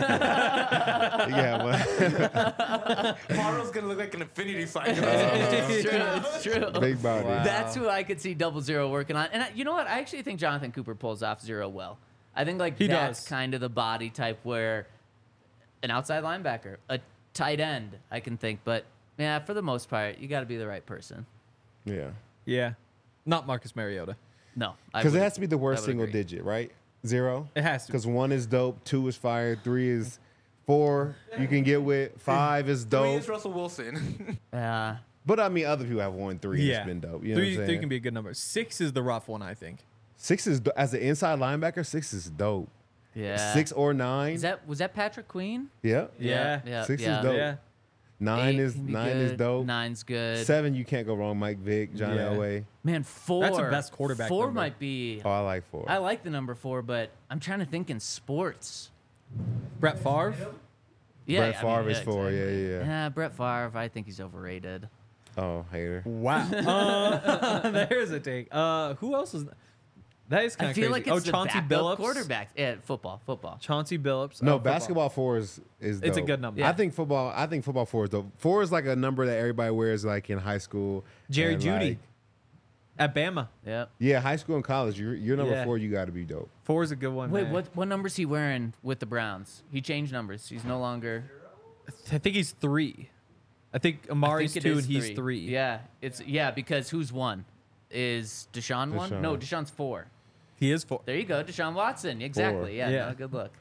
Yeah, well, Tomorrow's gonna look like an infinity sign. It's true. It's true. big body. Wow. That's who I could see double zero working on. And I, you know what? I actually think Jonathan Cooper pulls off zero well. I think like He that's does. kind of the body type where an outside linebacker, a tight end, I can think. But yeah, for the most part, you got to be the right person. Yeah. Yeah. Not Marcus Mariota. No, I Because it would- has to be the worst I would single agree. digit, right? Zero? It has to. Because one is dope, two is fire, three is four you can get with, five is Three dope. is Russell Wilson. Yeah. But I mean, other people have one, three, and Yeah. it's been dope. You know three, what I'm three saying? can be a good number. Six is the rough one, I think. Six is, do- as an inside linebacker, six is dope. Yeah. Six or nine. Is that was that Patrick Queen? yeah. Yeah. Yeah. Six is yeah. dope. Yeah. Nine Eight is can be nine is good. dope. Nine's good. Seven, you can't go wrong. Mike Vick, John Yeah. Elway. Man, four. That's the best quarterback Four number. might be. Oh, I like four. I like the number four, but I'm trying to think in sports. Brett Favre. Yeah, Brett I mean, Favre is yeah, four. exactly. Yeah, yeah, yeah. Yeah, Brett Favre. I think he's overrated. Oh, hater. Wow. Uh, there's a take. Uh, who else is? That is kind I of feel crazy. like it's oh, the Chauncey backup Billups. quarterback. Yeah, football, football. Chauncey Billups. No, Oh, football. basketball four is is dope. It's a good number. I Yeah. think football. I think football four is dope. Four is like a number that everybody wears like in high school. Jerry and, Jeudy like- at Bama. Yep. yeah, high school and college. You're, you're number Yeah. four. You got to be dope. Four is a good one. Wait, man. what what number's he wearing with the Browns? He changed numbers. He's no longer. I think he's three. I think I Amari's think it two is and he's three. Yeah, it's yeah because who's one? Is Deshaun, one? Deshaun. No, Deshaun's four. He is four. There you go, Deshaun Watson. Exactly. Yeah. Yeah. No, good look.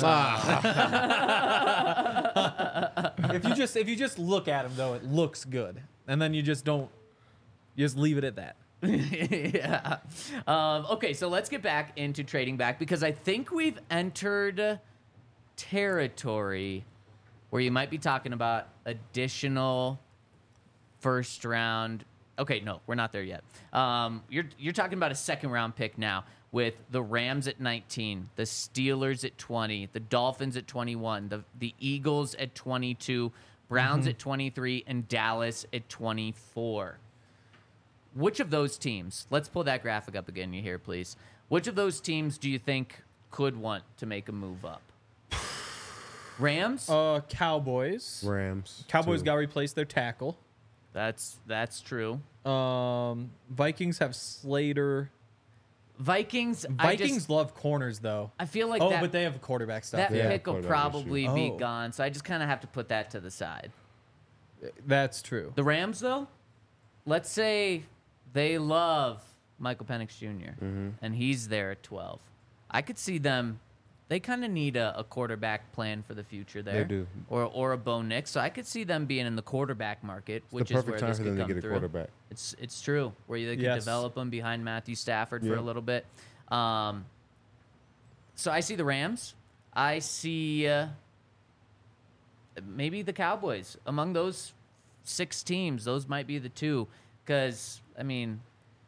if you just if you just look at him though, it looks good, and then you just don't. You just leave it at that. yeah. Um, okay, so let's get back into trading back because I think we've entered territory where you might be talking about additional first round. Okay, no, we're not there yet. Um, you're you're talking about a second round pick now with the Rams at nineteen, the Steelers at twenty, the Dolphins at twenty-one, the the Eagles at twenty-two, Browns at twenty-three, and Dallas at twenty-four. Which of those teams, let's pull that graphic up again here, please. Which of those teams do you think could want to make a move up? Rams? Uh, Cowboys. Rams. Cowboys two. got to replace their tackle. That's that's true. Um, Vikings have Slater. Vikings, Vikings I, just, love corners though. I feel like oh, that, but they have quarterback stuff. that Yeah, pick will quarterback issue. probably be Oh. gone, so I just kind of have to put that to the side. That's true. The Rams, though, let's say they love Michael Penix Junior Mm-hmm. and he's there at twelve. I could see them. They kind of need a, a quarterback plan for the future there. do. Or or a Bo Nix. So I could see them being in the quarterback market, It's which the is perfect where time this for could them to come get a through. quarterback. It's it's true where they can Yes. develop them behind Matthew Stafford for Yeah. a little bit. Um, so I see the Rams. I see uh, maybe the Cowboys among those six teams. Those might be the two because I mean,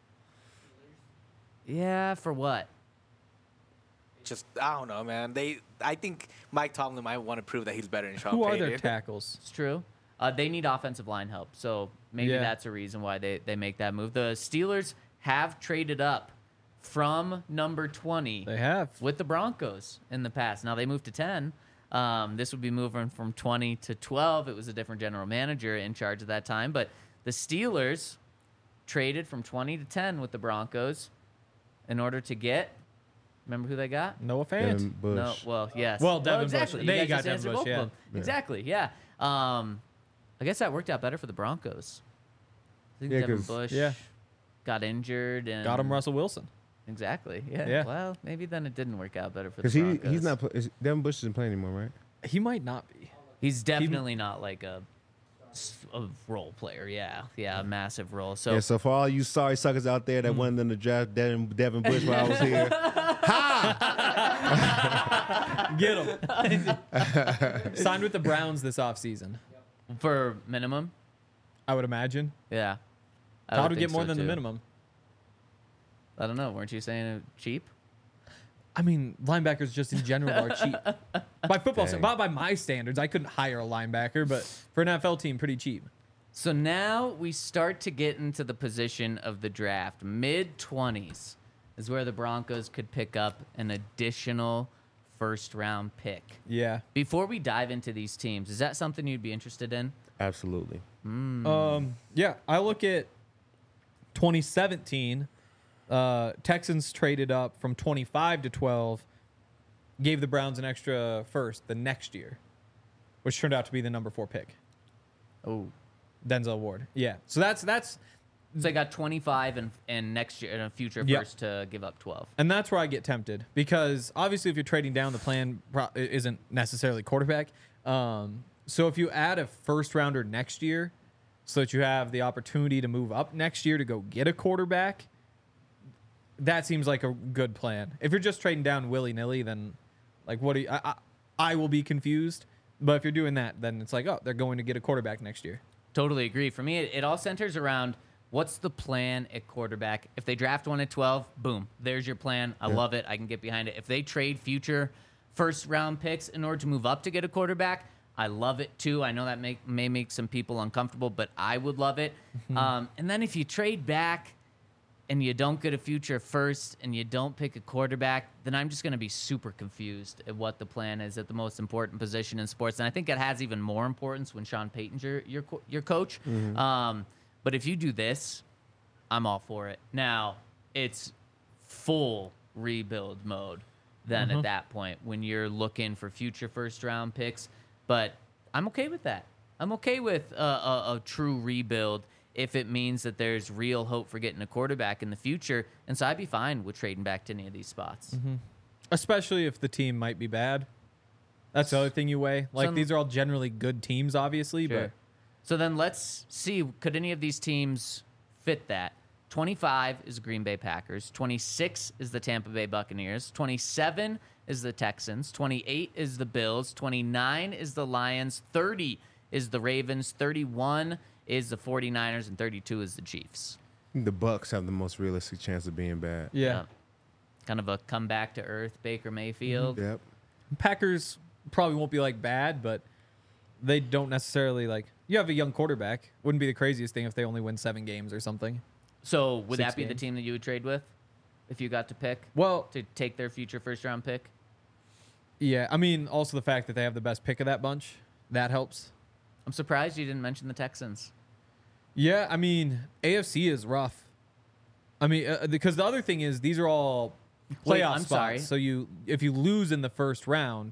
yeah, for what? Just I don't know, man. They I think Mike Tomlin might want to prove that he's better than Sean Who are Payton. their tackles? It's true. Uh, they need offensive line help, so maybe Yeah. that's a reason why they, they make that move. The Steelers have traded up from number twenty They have. with the Broncos in the past. Now they moved to ten. Um, this would be moving from twenty to twelve. It was a different general manager in charge at that time, but the Steelers traded from twenty to ten with the Broncos in order to get Remember who they got? Noah Fant. Devin Bush. No, well, yes. Well, Devin Bush. exactly. They You guys got just Devin answered Bush, both of yeah. them. Yeah. Exactly. Yeah. Um, I guess that worked out better for the Broncos. I think Yeah, Devin 'cause- Bush Yeah. got injured and Got him Russell Wilson. Exactly. Yeah. Yeah. Well, maybe then it didn't work out better for the Because he Broncos. he's not. pl- Is, Devin Bush isn't playing anymore, right? He might not be. He's definitely not like a, s- a role player. Yeah. Yeah. A massive role. So yeah. So for all you sorry suckers out there that wanted them to draft Devin, Devin Bush while I was here, Get him. Signed with the Browns this offseason, for minimum, I would imagine. yeah. I How would to get think more so, than the too. minimum? I don't know. Weren't you saying it cheap? I mean, linebackers just in general are cheap. By football, Dang. by, by my standards, I couldn't hire a linebacker, but for an N F L team, pretty cheap. So now we start to get into the position of the draft. Mid twenties is where the Broncos could pick up an additional first round pick. Yeah. Before we dive into these teams, is that something you'd be interested in? absolutely. Um, yeah, I look at twenty seventeen. Uh, Texans traded up from twenty-five to twelve, gave the Browns an extra first the next year, which turned out to be the number four pick, Oh. Denzel Ward. Yeah, so that's that's So they got twenty-five and, and next year and a future Yeah. first to give up twelve. and that's where I get tempted because obviously if you're trading down, the plan pro- isn't necessarily quarterback. Um, so if you add a first rounder next year, so that you have the opportunity to move up next year to go get a quarterback, that seems like a good plan. If you're just trading down willy nilly, then like what do you? I, I I will be confused. But if you're doing that, then it's like, oh, they're going to get a quarterback next year. Totally agree. For me, it, it all centers around what's the plan at quarterback. If they draft one at twelve, boom, there's your plan. I love it. I can get behind it. If they trade future first round picks in order to move up to get a quarterback, I love it too. I know that make, may make some people uncomfortable, but I would love it. Um, and then if you trade back and you don't get a future first and you don't pick a quarterback, then I'm just going to be super confused at what the plan is at the most important position in sports. And I think it has even more importance when Sean Payton's your your, co- your coach. Um, but if you do this, I'm all for it. Now, it's full rebuild mode then at that point when you're looking for future first round picks. But I'm okay with that. I'm okay with a, a, a true rebuild if it means that there's real hope for getting a quarterback in the future. And so I'd be fine with trading back to any of these spots. Especially if the team might be bad. That's the other thing you weigh. Like Some- these are all generally good teams, obviously, Sure. So then let's see, could any of these teams fit that? twenty-five is Green Bay Packers. twenty-six is the Tampa Bay Buccaneers. twenty-seven is the Texans. twenty-eight is the Bills. twenty-nine is the Lions. thirty is the Ravens. thirty-one is the 49ers. And thirty-two is the Chiefs. The Bucks have the most realistic chance of being bad. but yeah. Kind of a comeback to earth Baker Mayfield. Yep. Packers probably won't be like bad, but they don't necessarily like. You have a young quarterback. Wouldn't be the craziest thing if they only win seven games or something. So would Six that be the games. team that you would trade with if you got to pick Well, to take their future first round pick? yeah. I mean, also the fact that they have the best pick of that bunch that helps. I'm surprised you didn't mention the Texans. Yeah, I mean, A F C is rough. I mean, uh, because the other thing is these are all playoff Wait, I'm spots. sorry. So you, if you lose in the first round,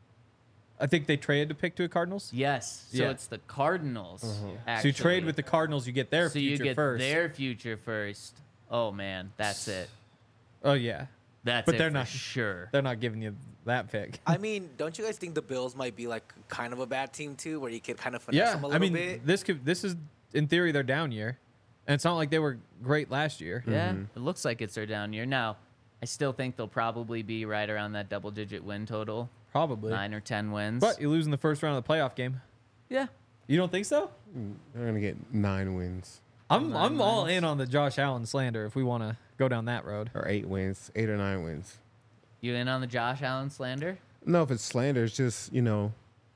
I think they traded to pick to the Cardinals. Yes. So Yeah. it's the Cardinals. So you Actually. trade with the Cardinals, you get their so future you get first. their future first. Oh man, that's it. Oh yeah, That's But it they're for not- sure. they're not giving you that pick. I mean, don't you guys think the Bills might be like kind of a bad team too, where you could kind of finesse Yeah, them a I little mean, bit? this could this is in theory their down year, and it's not like they were great last year. Yeah, it looks like it's their down year. Now, I still think they'll probably be right around that double digit win total, Probably, nine or ten wins. but you lose in the first round of the playoff game. yeah, You don't think so? They're gonna get nine wins I'm Nine I'm all wins. in on the Josh Allen slander if we want to go down that road. or eight wins, eight or nine wins. you in on the Josh Allen slander? No, if it's slander, it's just, you know,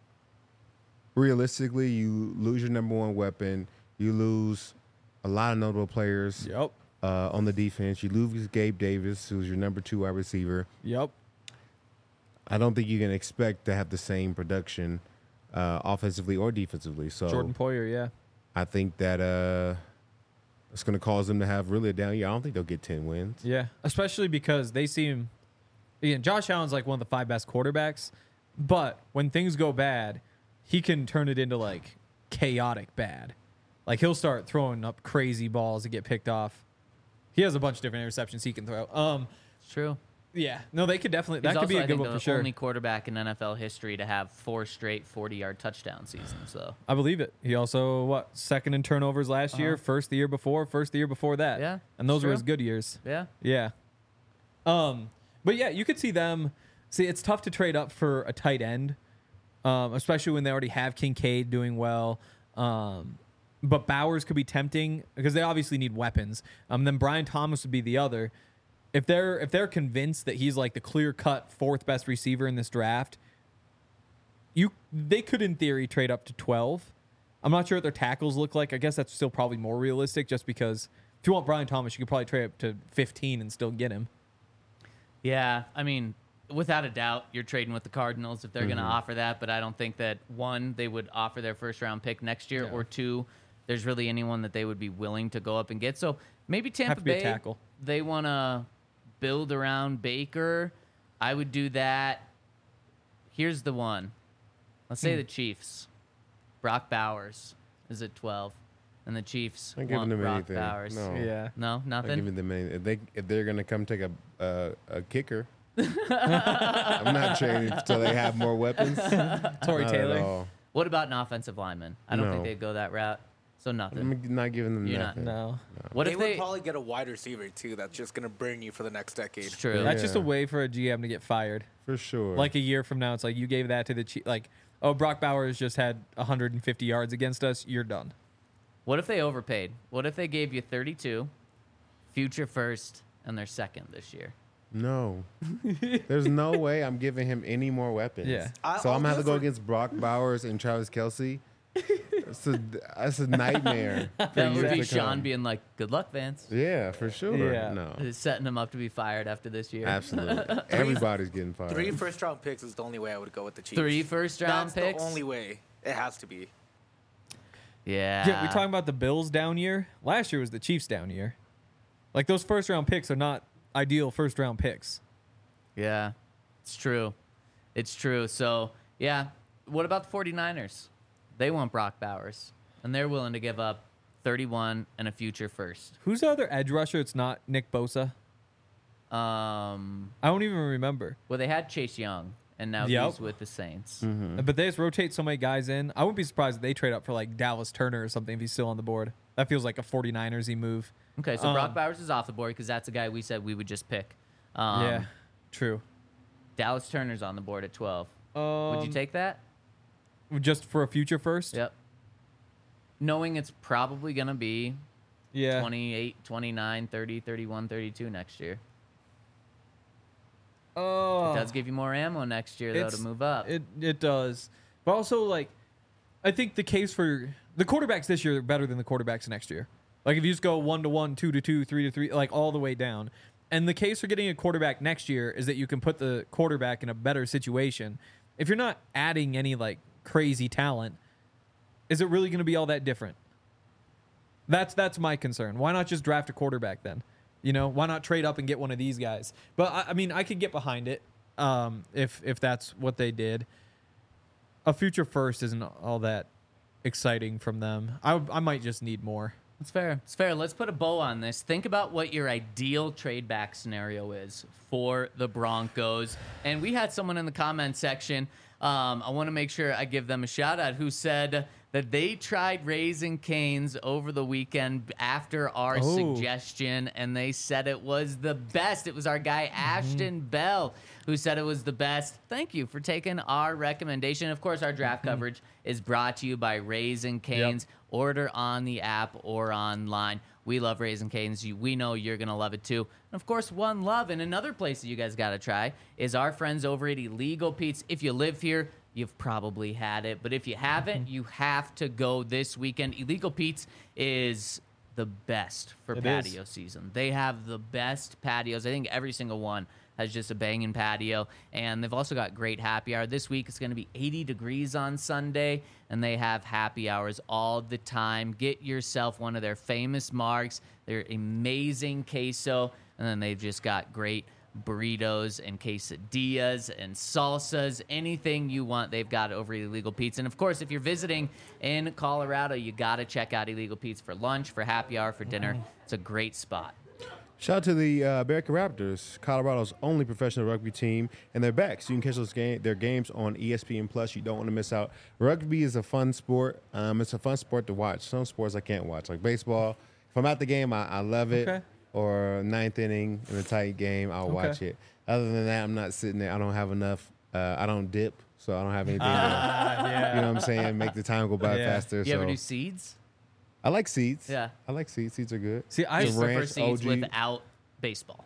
realistically, you lose your number one weapon. You lose a lot of notable players Yep. uh, on the defense. You lose Gabe Davis, who's your number two wide receiver. Yep. I don't think you can expect to have the same production uh, offensively or defensively. So Jordan Poyer, yeah. I think that uh, it's going to cause them to have really a down year. I don't think they'll get ten wins. Yeah, especially because they seem again, Josh Allen's like one of the five best quarterbacks, but when things go bad, he can turn it into like chaotic bad. Like he'll start throwing up crazy balls that get picked off. He has a bunch of different interceptions he can throw. Um, It's true. yeah, no, they could definitely. He's That could also, be a I good think, one the for sure. only quarterback in N F L history to have four straight forty-yard touchdown seasons. So I believe it. He also what second in turnovers last year, Uh-huh. first the year before, first the year before that. Yeah, and those it's were true. his good years. yeah, Yeah. Um, but yeah, you could see them. See, it's tough to trade up for a tight end, um, especially when they already have Kincaid doing well. Um, but Bowers could be tempting because they obviously need weapons. Um, then Brian Thomas would be the other. If they're if they're convinced that he's like the clear cut fourth best receiver in this draft, you they could in theory trade up to twelve. I'm not sure what their tackles look like. I guess that's still probably more realistic, just because if you want Brian Thomas, you could probably trade up to fifteen and still get him. yeah. I mean, without a doubt, you're trading with the Cardinals if they're going to offer that. But I don't think that one, they would offer their first round pick next year, Yeah. or two, there's really anyone that they would be willing to go up and get. So maybe Tampa Have to be a Bay, tackle. they want to build around Baker. I would do that. Here's the one. Let's say Hmm. the Chiefs. Brock Bowers is at twelve, and the Chiefs Not giving want them Brock anything. Bowers. No. Yeah. No, Not nothing. giving them anything. If they if they're gonna come take a a, a kicker, I'm not trading until they have more weapons. Tory Not Taylor. At all. What about an offensive lineman? I don't think No. they'd go that route. So nothing. I'm not giving them You're not- nothing. No. What they if would they? probably get a wide receiver too. That's just gonna burn you for the next decade. It's true. That's just a Yeah. way for a G M to get fired. For sure. Like a year from now, it's like you gave that to the Chiefs. Like, oh, Brock Bowers just had one hundred fifty yards against us. You're done. What if they overpaid? What if they gave you thirty-two, future first, and their second this year? no, there's no way I'm giving him any more weapons. Yeah. I- so I'll I'm gonna have do to go it for- against Brock Bowers and Travis Kelsey. That's a, that's a nightmare. for That years would be to Sean come. being like, "Good luck, Vance." Yeah, for sure. Yeah. No, Setting him up to be fired after this year. absolutely. Everybody's getting fired. Three first round picks is the only way I would go with the Chiefs. Three first round That's picks. the only way. It has to be. Yeah. Yeah, we talking about the Bills down year. Last year was the Chiefs down year. Like those first round picks are not ideal first round picks. Yeah, it's true. It's true. So, yeah. What about the 49ers? They want Brock Bowers, and they're willing to give up thirty-one and a future first. Who's the other edge rusher? It's not Nick Bosa. Um, I don't even remember. well, they had Chase Young, and now Yep. he's with the Saints. Mm-hmm. But they just rotate so many guys in. I wouldn't be surprised if they trade up for like Dallas Turner or something if he's still on the board. That feels like a 49ers-y move. Okay, so Brock Um, Bowers is off the board because that's a guy we said we would just pick. Um, yeah, true. Dallas Turner's on the board at twelve. Um, Would you take that? just for a future first? Yep. Knowing it's probably going to be Yeah. twenty-eight, twenty-nine, thirty, thirty-one, thirty-two next year. Oh, It does give you more ammo next year, though, to It's- move up. It it does, but also like, I think the case for the quarterbacks this year are better than the quarterbacks next year. Like if you just go one to one, two to two, three to three, like all the way down. And the case for getting a quarterback next year is that you can put the quarterback in a better situation. If you're not adding any like crazy talent, is it really going to be all that different? That's that's my concern. Why not just draft a quarterback then? You know, why not trade up and get one of these guys? But I, I mean, I could get behind it um, if if that's what they did. A future first isn't all that exciting from them. I I might just need more. It's fair. It's fair. Let's put a bow on this. Think about what your ideal trade back scenario is for the Broncos. And we had someone in the comment section. Um, I want to make sure I give them a shout out who said that they tried Raising Cane's over the weekend after our Oh. suggestion, and they said it was the best. It was our guy Ashton Bell who said it was the best. Thank you for taking our recommendation. Of course, our draft coverage is brought to you by Raising Cane's. Order on the app or online. We love Raising Cane's. You- We know you're going to love it too. And of course, One Love. And another place that you guys got to try is our friends over at Illegal Pete's. If you live here, you've probably had it. But if you haven't, you have to go this weekend. Illegal Pete's is the best for It patio is. season. They have the best patios. I think every single one has just a banging patio. And they've also got great happy hour. This week it's going to be eighty degrees on Sunday, and they have happy hours all the time. Get yourself one of their famous marks, their amazing queso, and then they've just got great burritos and quesadillas and salsas, anything you want, they've got over at Illegal Pete's. And of course, if you're visiting in Colorado, you got to check out Illegal Pete's for lunch, for happy hour, for dinner. It's a great spot. Shout out to the uh, American Raptors, Colorado's only professional rugby team, and they're back. So you can catch those game, their games on E S P N Plus. You don't want to miss out. Rugby is a fun sport. Um, it's a fun sport to watch. Some sports I can't watch, like baseball. If I'm at the game, I, I love it. Okay. Or ninth inning in a tight game, I'll Okay. watch it. Other than that, I'm not sitting there. I don't have enough. Uh, I don't dip, so I don't have anything. Ah, to, yeah. you know what I'm saying? Make the time go by Yeah. faster. You so ever do seeds? I like seeds. Yeah. I like seeds. Seeds are good. See, I I The just prefer ranch, seeds O G. without baseball.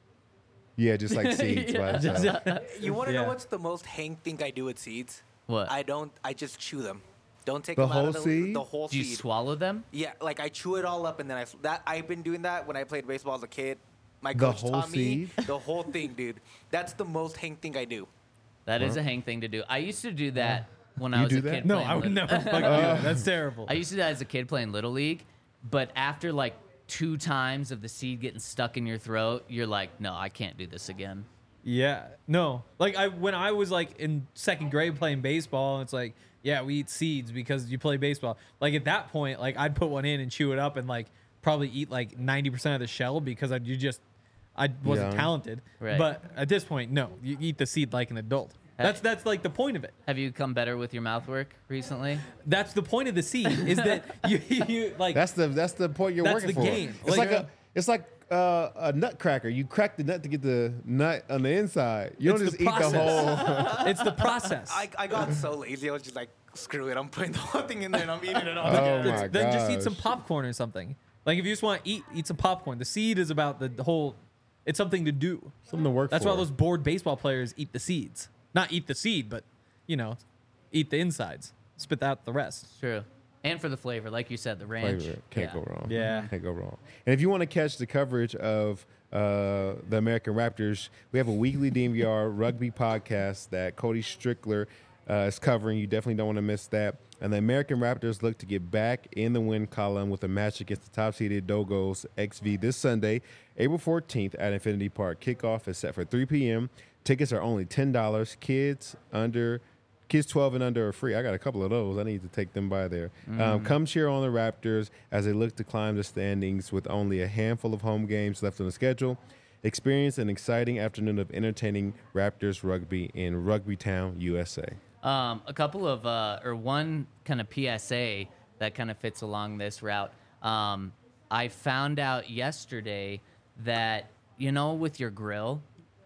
Yeah, just like seeds. Yeah. by itself. You want to Yeah. know what's the most Hank thing I do with seeds? What? I don't. I just chew them. Don't take The them out whole of the, seed? the whole Do you seed. swallow them? Yeah, like I chew it all up and then I that I've been doing that when I played baseball as a kid. My The coach whole taught me seed? the whole thing, dude. That's the most Hank thing I do. That is a Hank thing to do. I used to do that when I You was do a that? kid. No, playing I would Lit- never fucking do that. That's terrible. I used to do that as a kid playing Little League, but after like two times of the seed getting stuck in your throat, you're like, no, I can't do this again. Yeah, no. Like I when I was like in second grade playing baseball, it's like, yeah, we eat seeds because you play baseball. Like at that point, like I'd put one in and chew it up and like probably eat like ninety percent of the shell because I you just I wasn't Yeah. talented. Right. But at this point, no, you eat the seed like an adult. That's that's like the point of it. Have you come better with your mouth work recently? That's the point of the seed is that you you like That's the that's the point you're That's working the for. game. It's Like, like, a it's like uh, a nutcracker. You crack the nut to get the nut on the inside. You don't It's just the eat the process. whole. it's the process. I, I got so lazy. I was just like, screw it. I'm putting the whole thing in there and I'm eating it all. Oh together. my then just eat some gosh. popcorn or something. Like if you just want to eat, eat some popcorn. The seed is about the, the whole. It's something to do. Something to work That's for. why those bored baseball players eat the seeds. Not eat the seed, but you know, eat the insides. Spit out the rest. True. And for the flavor, like you said, the ranch. Flavor. Can't Yeah. go wrong. Yeah. Can't go wrong. And if you want to catch the coverage of uh, the American Raptors, we have a weekly D M V R rugby podcast that Cody Strickler uh, is covering. You definitely don't want to miss that. And the American Raptors look to get back in the win column with a match against the top-seeded Dogos X V this Sunday, April fourteenth at Infinity Park. Kickoff is set for three p.m. Tickets are only ten dollars. Kids under Kids twelve and under are free. I got a couple of those. I need to take them by there. Um, come cheer on the Raptors as they look to climb the standings with only a handful of home games left on the schedule. Experience an exciting afternoon of entertaining Raptors rugby in Rugby Town, U S A. Um, a couple of, uh, or one kind of P S A that kind of fits along this route. Um, I found out yesterday that, you know, with your grill,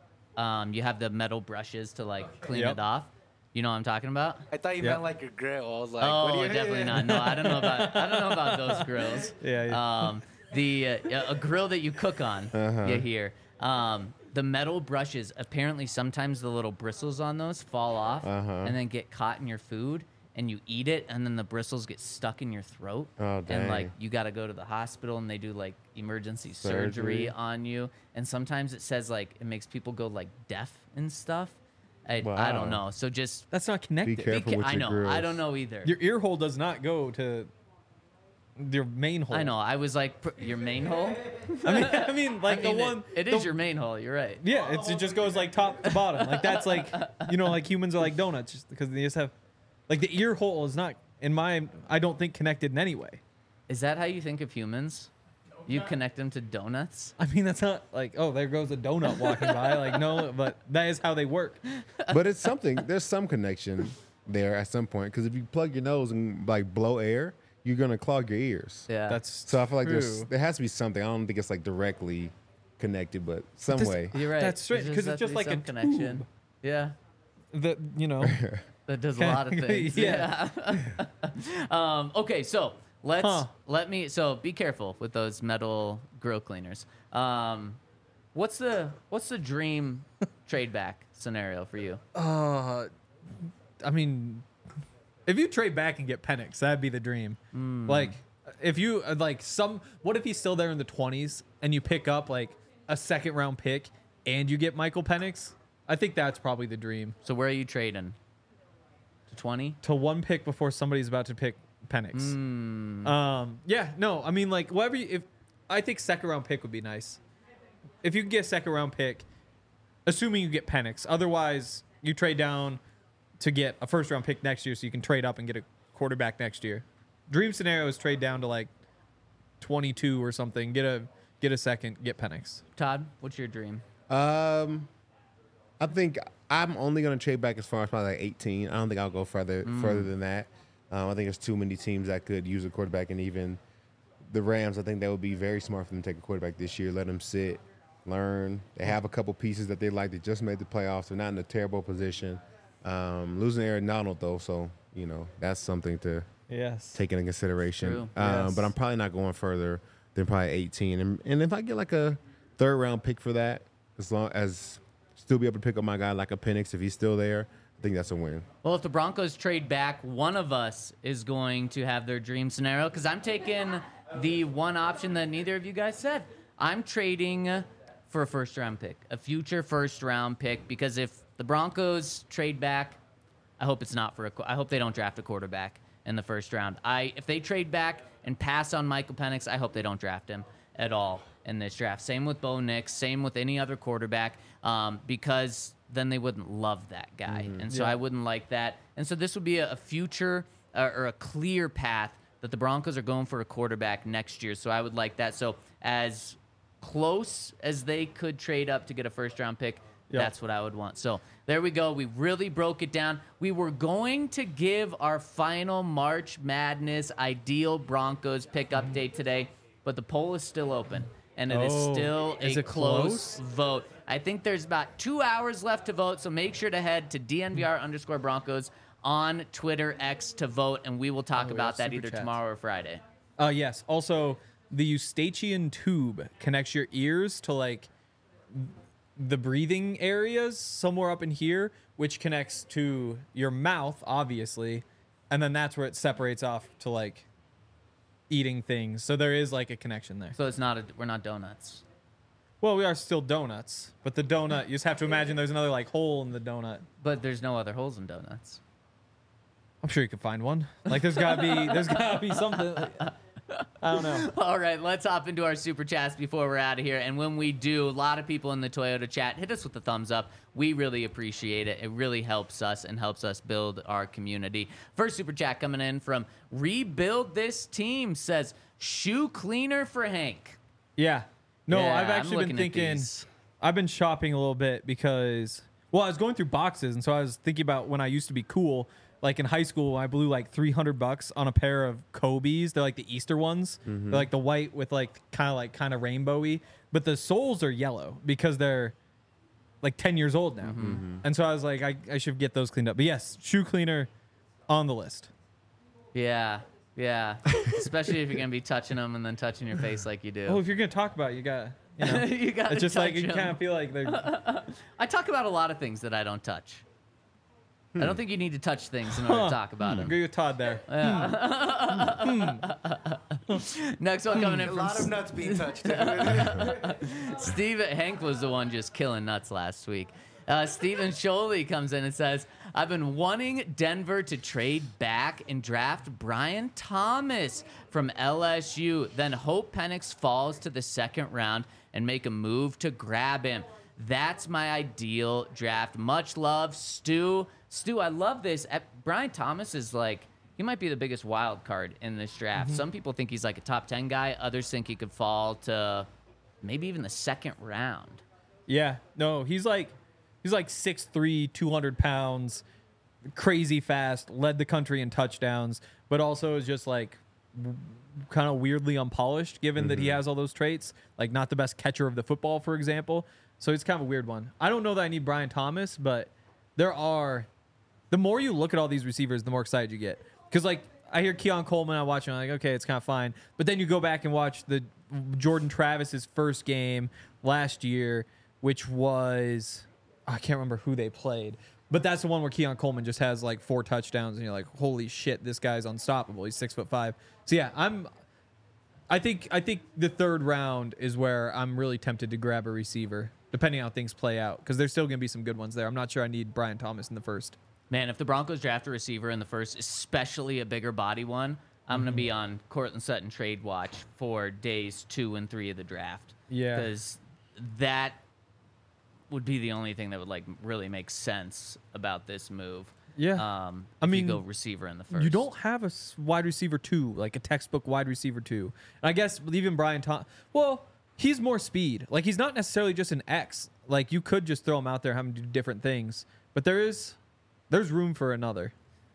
um, you have the metal brushes to like clean Yep. it off. You know what I'm talking about? I thought you Yeah. meant like your grill. I was like, what do Oh, you definitely not. No, I don't know about I don't know about those grills. Yeah, yeah. Um, the uh, yeah, a grill that you cook on. Uh-huh. You hear. Um, the metal brushes. Apparently, sometimes the little bristles on those fall off Uh-huh. and then get caught in your food, and you eat it, and then the bristles get stuck in your throat. Oh, And like dang. you got to go to the hospital, and they do like emergency surgery. Surgery. on you. And sometimes it says like it makes people go like deaf and stuff. I, I Wow. don't know. So just That's not connected. Be careful ca- with I your know. grills. I don't know either. Your ear hole does not go to your main hole. I know. I was like, pr- your main hole? I mean, I mean, like I mean, the it- one. it the- is your main hole. You're right. Yeah, it's, it just goes like top to bottom. Like that's like, you know, like humans are like donuts just because they just have, like the ear hole is not in my. I don't think connected in any way. Is that how you think of humans? You connect them to donuts? I mean, that's not like, oh, there goes a donut walking by. Like no, but that is how they work. But it's something. There's some connection there at some point because if you plug your nose and like blow air, you're gonna clog your ears. Yeah. That's So I feel like there's true. there has to be something. I don't think it's like directly connected, but some This- way. You're right. That's straight, There 'cause has it's to just be like a some connection. tube. Yeah. that you know. That does a lot of things. Yeah. Yeah. um, okay, so let's Huh. let me. So be careful with those metal grill cleaners. Um, what's the what's the dream trade back scenario for you? Uh, I mean, if you trade back and get Penix, that'd be the dream. Like, if you uh, like some, what if he's still there in the twenties and you pick up like a second round pick and you get Michael Penix? I think that's probably the dream. So where are you trading? To twenty? To one pick before somebody's about to pick Penix. Um, yeah, no, I mean like whatever. You, if I think second round pick would be nice. If you can get a second round pick, assuming you get Penix. Otherwise, you trade down to get a first round pick next year, so you can trade up and get a quarterback next year. Dream scenario is trade down to like twenty-two or something. Get a get a second. Get Penix. Todd, what's your dream? Um, I think I'm only going to trade back as far as probably like eighteen. I don't think I'll go further further than that. Um, I think there's too many teams that could use a quarterback, and even the Rams, I think that would be very smart for them to take a quarterback this year. Let them sit, learn. They have a couple pieces that they like. They just made the playoffs. They're not in a terrible position. Um, losing Aaron Donald, though, so, you know, that's something to Yes. take into consideration. True. Um, Yes. But I'm probably not going further than probably eighteen. And, and if I get like a third round pick for that, as long as still be able to pick up my guy like a Penix if he's still there, I think that's a win. Well, if the Broncos trade back, one of us is going to have their dream scenario because I'm taking the one option that neither of you guys said. I'm trading for a first round pick, a future first round pick, because if the Broncos trade back, I hope it's not for a. I hope they don't draft a quarterback in the first round. I if they trade back and pass on Michael Penix, I hope they don't draft him at all in this draft. Same with Bo Nix. Same with any other quarterback, um, because then they wouldn't love that guy, Mm-hmm. and so Yeah. I wouldn't like that. And so this would be a, a future uh, or a clear path that the Broncos are going for a quarterback next year. So I would like that. So as close as they could trade up to get a first round pick, Yep. that's what I would want. So there we go. We really broke it down. We were going to give our final March Madness ideal Broncos pick update today, but the poll is still open, and it is Oh, still is a it close, close? vote. I think there's about two hours left to vote, so make sure to head to D N V R underscore Broncos on Twitter X to vote, and we will talk Oh, we about have that super either chats. tomorrow or Friday. Uh, yes. Also, the Eustachian tube connects your ears to like the breathing areas somewhere up in here, which connects to your mouth, obviously, and then that's where it separates off to like eating things. So there is like a connection there. So it's not a, we're not donuts. Well, we are still donuts, but the donut, you just have to imagine there's another like hole in the donut. But there's no other holes in donuts. I'm sure you could find one. Like there's gotta be, there's gotta be something. I don't know. All right, let's hop into our super chats before we're out of here. And when we do, a lot of people in the Toyota chat hit us with the thumbs up. We really appreciate it. It really helps us and helps us build our community. First super chat coming in from Rebuild This Team says, shoe cleaner for Hank. Yeah. No, Yeah, I've I'm actually been looking at thinking. these. I've been shopping a little bit because, well, I was going through boxes, and so I was thinking about when I used to be cool. Like in high school, I blew like three hundred bucks on a pair of Kobe's. They're like the Easter ones. They're like the white with like kind of like kind of rainbowy, but the soles are yellow because they're like ten years old now. And so I was like, I, I should get those cleaned up. But yes, shoe cleaner on the list. Yeah, yeah. Especially if you're going to be touching them and then touching your face like you do. Oh, if you're gonna talk about it, you got, you know, you got it's just like you kind of feel like they're. I talk about a lot of things that I don't touch. I don't think you need to touch things in order Huh. to talk about them. Agree with Todd there. Next one coming in A from lot of nuts being touched. Steve Hank was the one just killing nuts last week. Uh, Steven Sholey comes in and says, I've been wanting Denver to trade back and draft Brian Thomas from L S U, then hope Penix falls to the second round and make a move to grab him. That's my ideal draft. Much love, Stu. Stu, I love this. Uh, Brian Thomas is like, he might be the biggest wild card in this draft. Some people think he's like a top ten guy. Others think he could fall to maybe even the second round. Yeah, no, he's like he's like six three, two hundred pounds, crazy fast, led the country in touchdowns, but also is just like kind of weirdly unpolished given that he has all those traits, like not the best catcher of the football, for example. So it's kind of a weird one. I don't know that I need Brian Thomas, but there are, the more you look at all these receivers, the more excited you get. Because like I hear Keon Coleman, I watch him, I'm like, okay, it's kind of fine. But then you go back and watch the Jordan Travis's first game last year, which was, I can't remember who they played, but that's the one where Keon Coleman just has like four touchdowns, and you're like, holy shit, this guy's unstoppable. He's six foot five. So yeah, I'm. I think I think the third round is where I'm really tempted to grab a receiver, depending on how things play out, because there's still going to be some good ones there. I'm not sure I need Brian Thomas in the first. Man, if the Broncos draft a receiver in the first, especially a bigger body one, I'm going to be on Cortland Sutton trade watch for days two and three of the draft. Yeah. Because that would be the only thing that would like really make sense about this move. Yeah. Um, I if mean, you go receiver in the first. You don't have a s- wide receiver two, like a textbook wide receiver two. And I guess even Brian Tom. Well, he's more speed. Like he's not necessarily just an X. Like you could just throw him out there, have him do different things. But there is, there's room for another.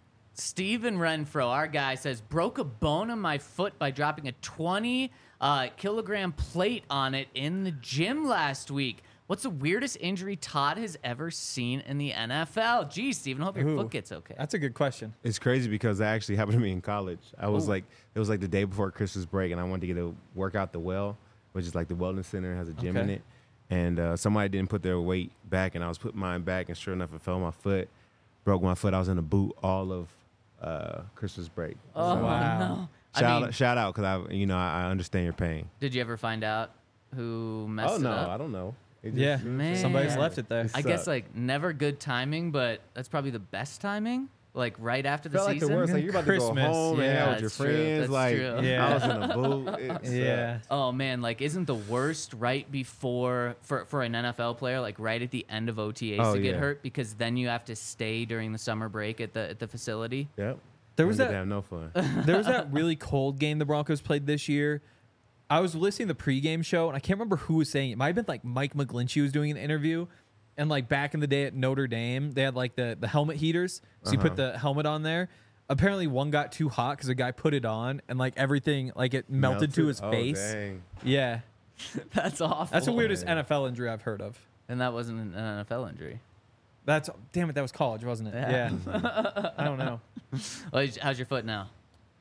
Steven Renfro, our guy, says, broke a bone in my foot by dropping a twenty uh, kilogram plate on it in the gym last week. What's the weirdest injury Todd has ever seen in the N F L? Geez, Steven, hope your Ooh, foot gets okay. That's a good question. It's crazy because that actually happened to me in college. I was Ooh. like, it was like the day before Christmas break, and I wanted to get a workout the well, which is like the wellness center, has a gym in Okay. it. And uh, somebody didn't put their weight back, and I was putting mine back, and sure enough, it fell on my foot, broke my foot. I was in a boot all of uh, Christmas break. Oh, So, Wow. no. I shout, mean, shout out because I, you know, I, I understand your pain. did you ever find out who messed Oh no, it up? I don't know. It just- Yeah, it was Man. just- somebody's left it there. It I guess sucked. like never good timing, but that's probably the best timing. Like right after the felt like season. the worst. Like you're about to Christmas, go home and yeah. hang out with your That's true, friends. that's Like true. Yeah. I was in a boot. It sucked. Yeah. Oh man, like isn't the worst right before for for an N F L player, like right at the end of O T As Oh, to get yeah. hurt because then you have to stay during the summer break at the at the facility. Yep. There was Didn't that have no fun. there was that really cold game the Broncos played this year. I was listening to the pregame show, and I can't remember who was saying it. It might have been like Mike McGlinchey was doing an interview. And like back in the day at Notre Dame, they had like the, the helmet heaters. So you put Uh-huh. the helmet on there. Apparently one got too hot because a guy put it on and like everything, like it melted, to his Oh, face. dang. Yeah. That's awful. That's the weirdest man. N F L injury I've heard of. And that wasn't an N F L injury. That's, damn it, that was college, wasn't it? Yeah. Yeah. I don't know. Well, how's your foot now?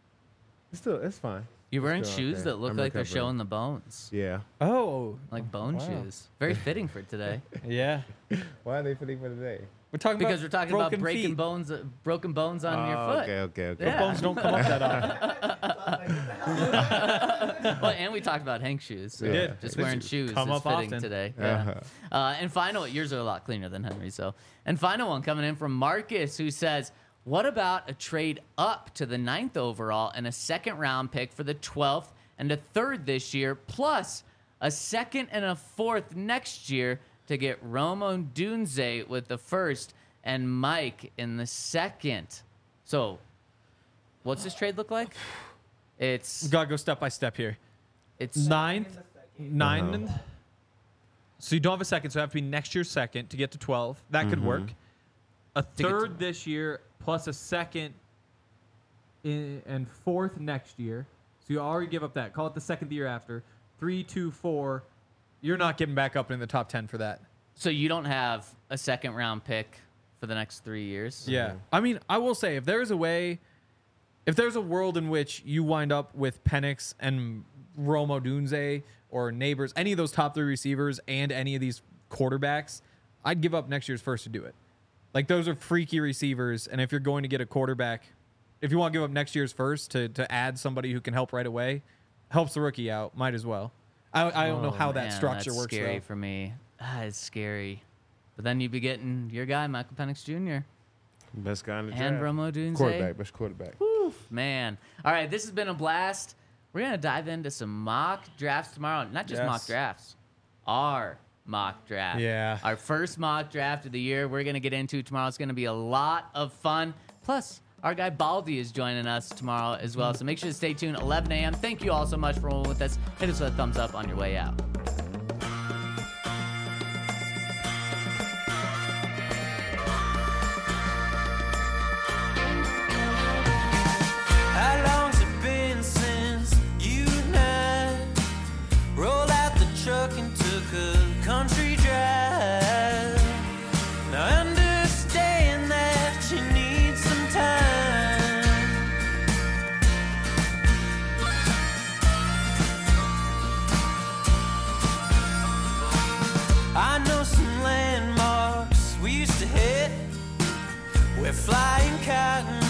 It's still, it's fine. You're wearing Still shoes okay. that look I'm like they're recovering. showing the bones, Yeah. Oh. like bone Wow. shoes. Very fitting for today. Yeah. Why are they fitting for today? We're talking Because about we're talking about broken breaking feet. bones, uh, broken bones on your Oh, foot. Okay, okay, okay. Yeah. Bones don't come up that often. Well, and we talked about Hank shoes. So We did. Just They wearing should shoes come is up fitting often. today. Uh-huh. Yeah. Uh, and final, yours are a lot cleaner than Henry. So, and final one coming in from Marcus, who says, "What about a trade up to the ninth overall and a second round pick for the twelfth and a third this year, plus a second and a fourth next year to get Romo Dunze with the first and Mike in the second?" So, what's this trade look like? It's Gotta go step by step here. it's Ninth, nine, Uh-huh. and so you don't have a second, so it have to be next year's second to get to twelve. That could work. A get to- third this year plus a second in, and fourth next year. So you already give up that. Call it the second the year after. Three, two, four. You're not getting back up in the top ten for that. So you don't have a second round pick for the next three years? Yeah. I mean, I will say if there's a way, if there's a world in which you wind up with Penix and Romo Dunze or Neighbors, any of those top three receivers and any of these quarterbacks, I'd give up next year's first to do it. Like those are freaky receivers, and if you're going to get a quarterback, if you want to give up next year's first to to add somebody who can help right away, helps the rookie out, might as well. I, I don't know Oh, how that man, structure that's works. scary though. for me. Ah, it's scary. But then you'd be getting your guy, Michael Penix Junior Best guy in the and draft. Romo Dunze. Quarterback, best quarterback. Man. All right, this has been a blast. We're going to dive into some mock drafts tomorrow. Not just Yes. mock drafts, our mock draft. Yeah. Our first mock draft of the year we're going to get into tomorrow. It's going to be a lot of fun. Plus, our guy Baldy is joining us tomorrow as well. So make sure to stay tuned, eleven a.m. Thank you all so much for rolling with us. Hit us with a thumbs up on your way out. How long's it been since you and I rolled out the truck and took a country drive? Now I understand that you need some time. I know some landmarks we used to hit where flying cotton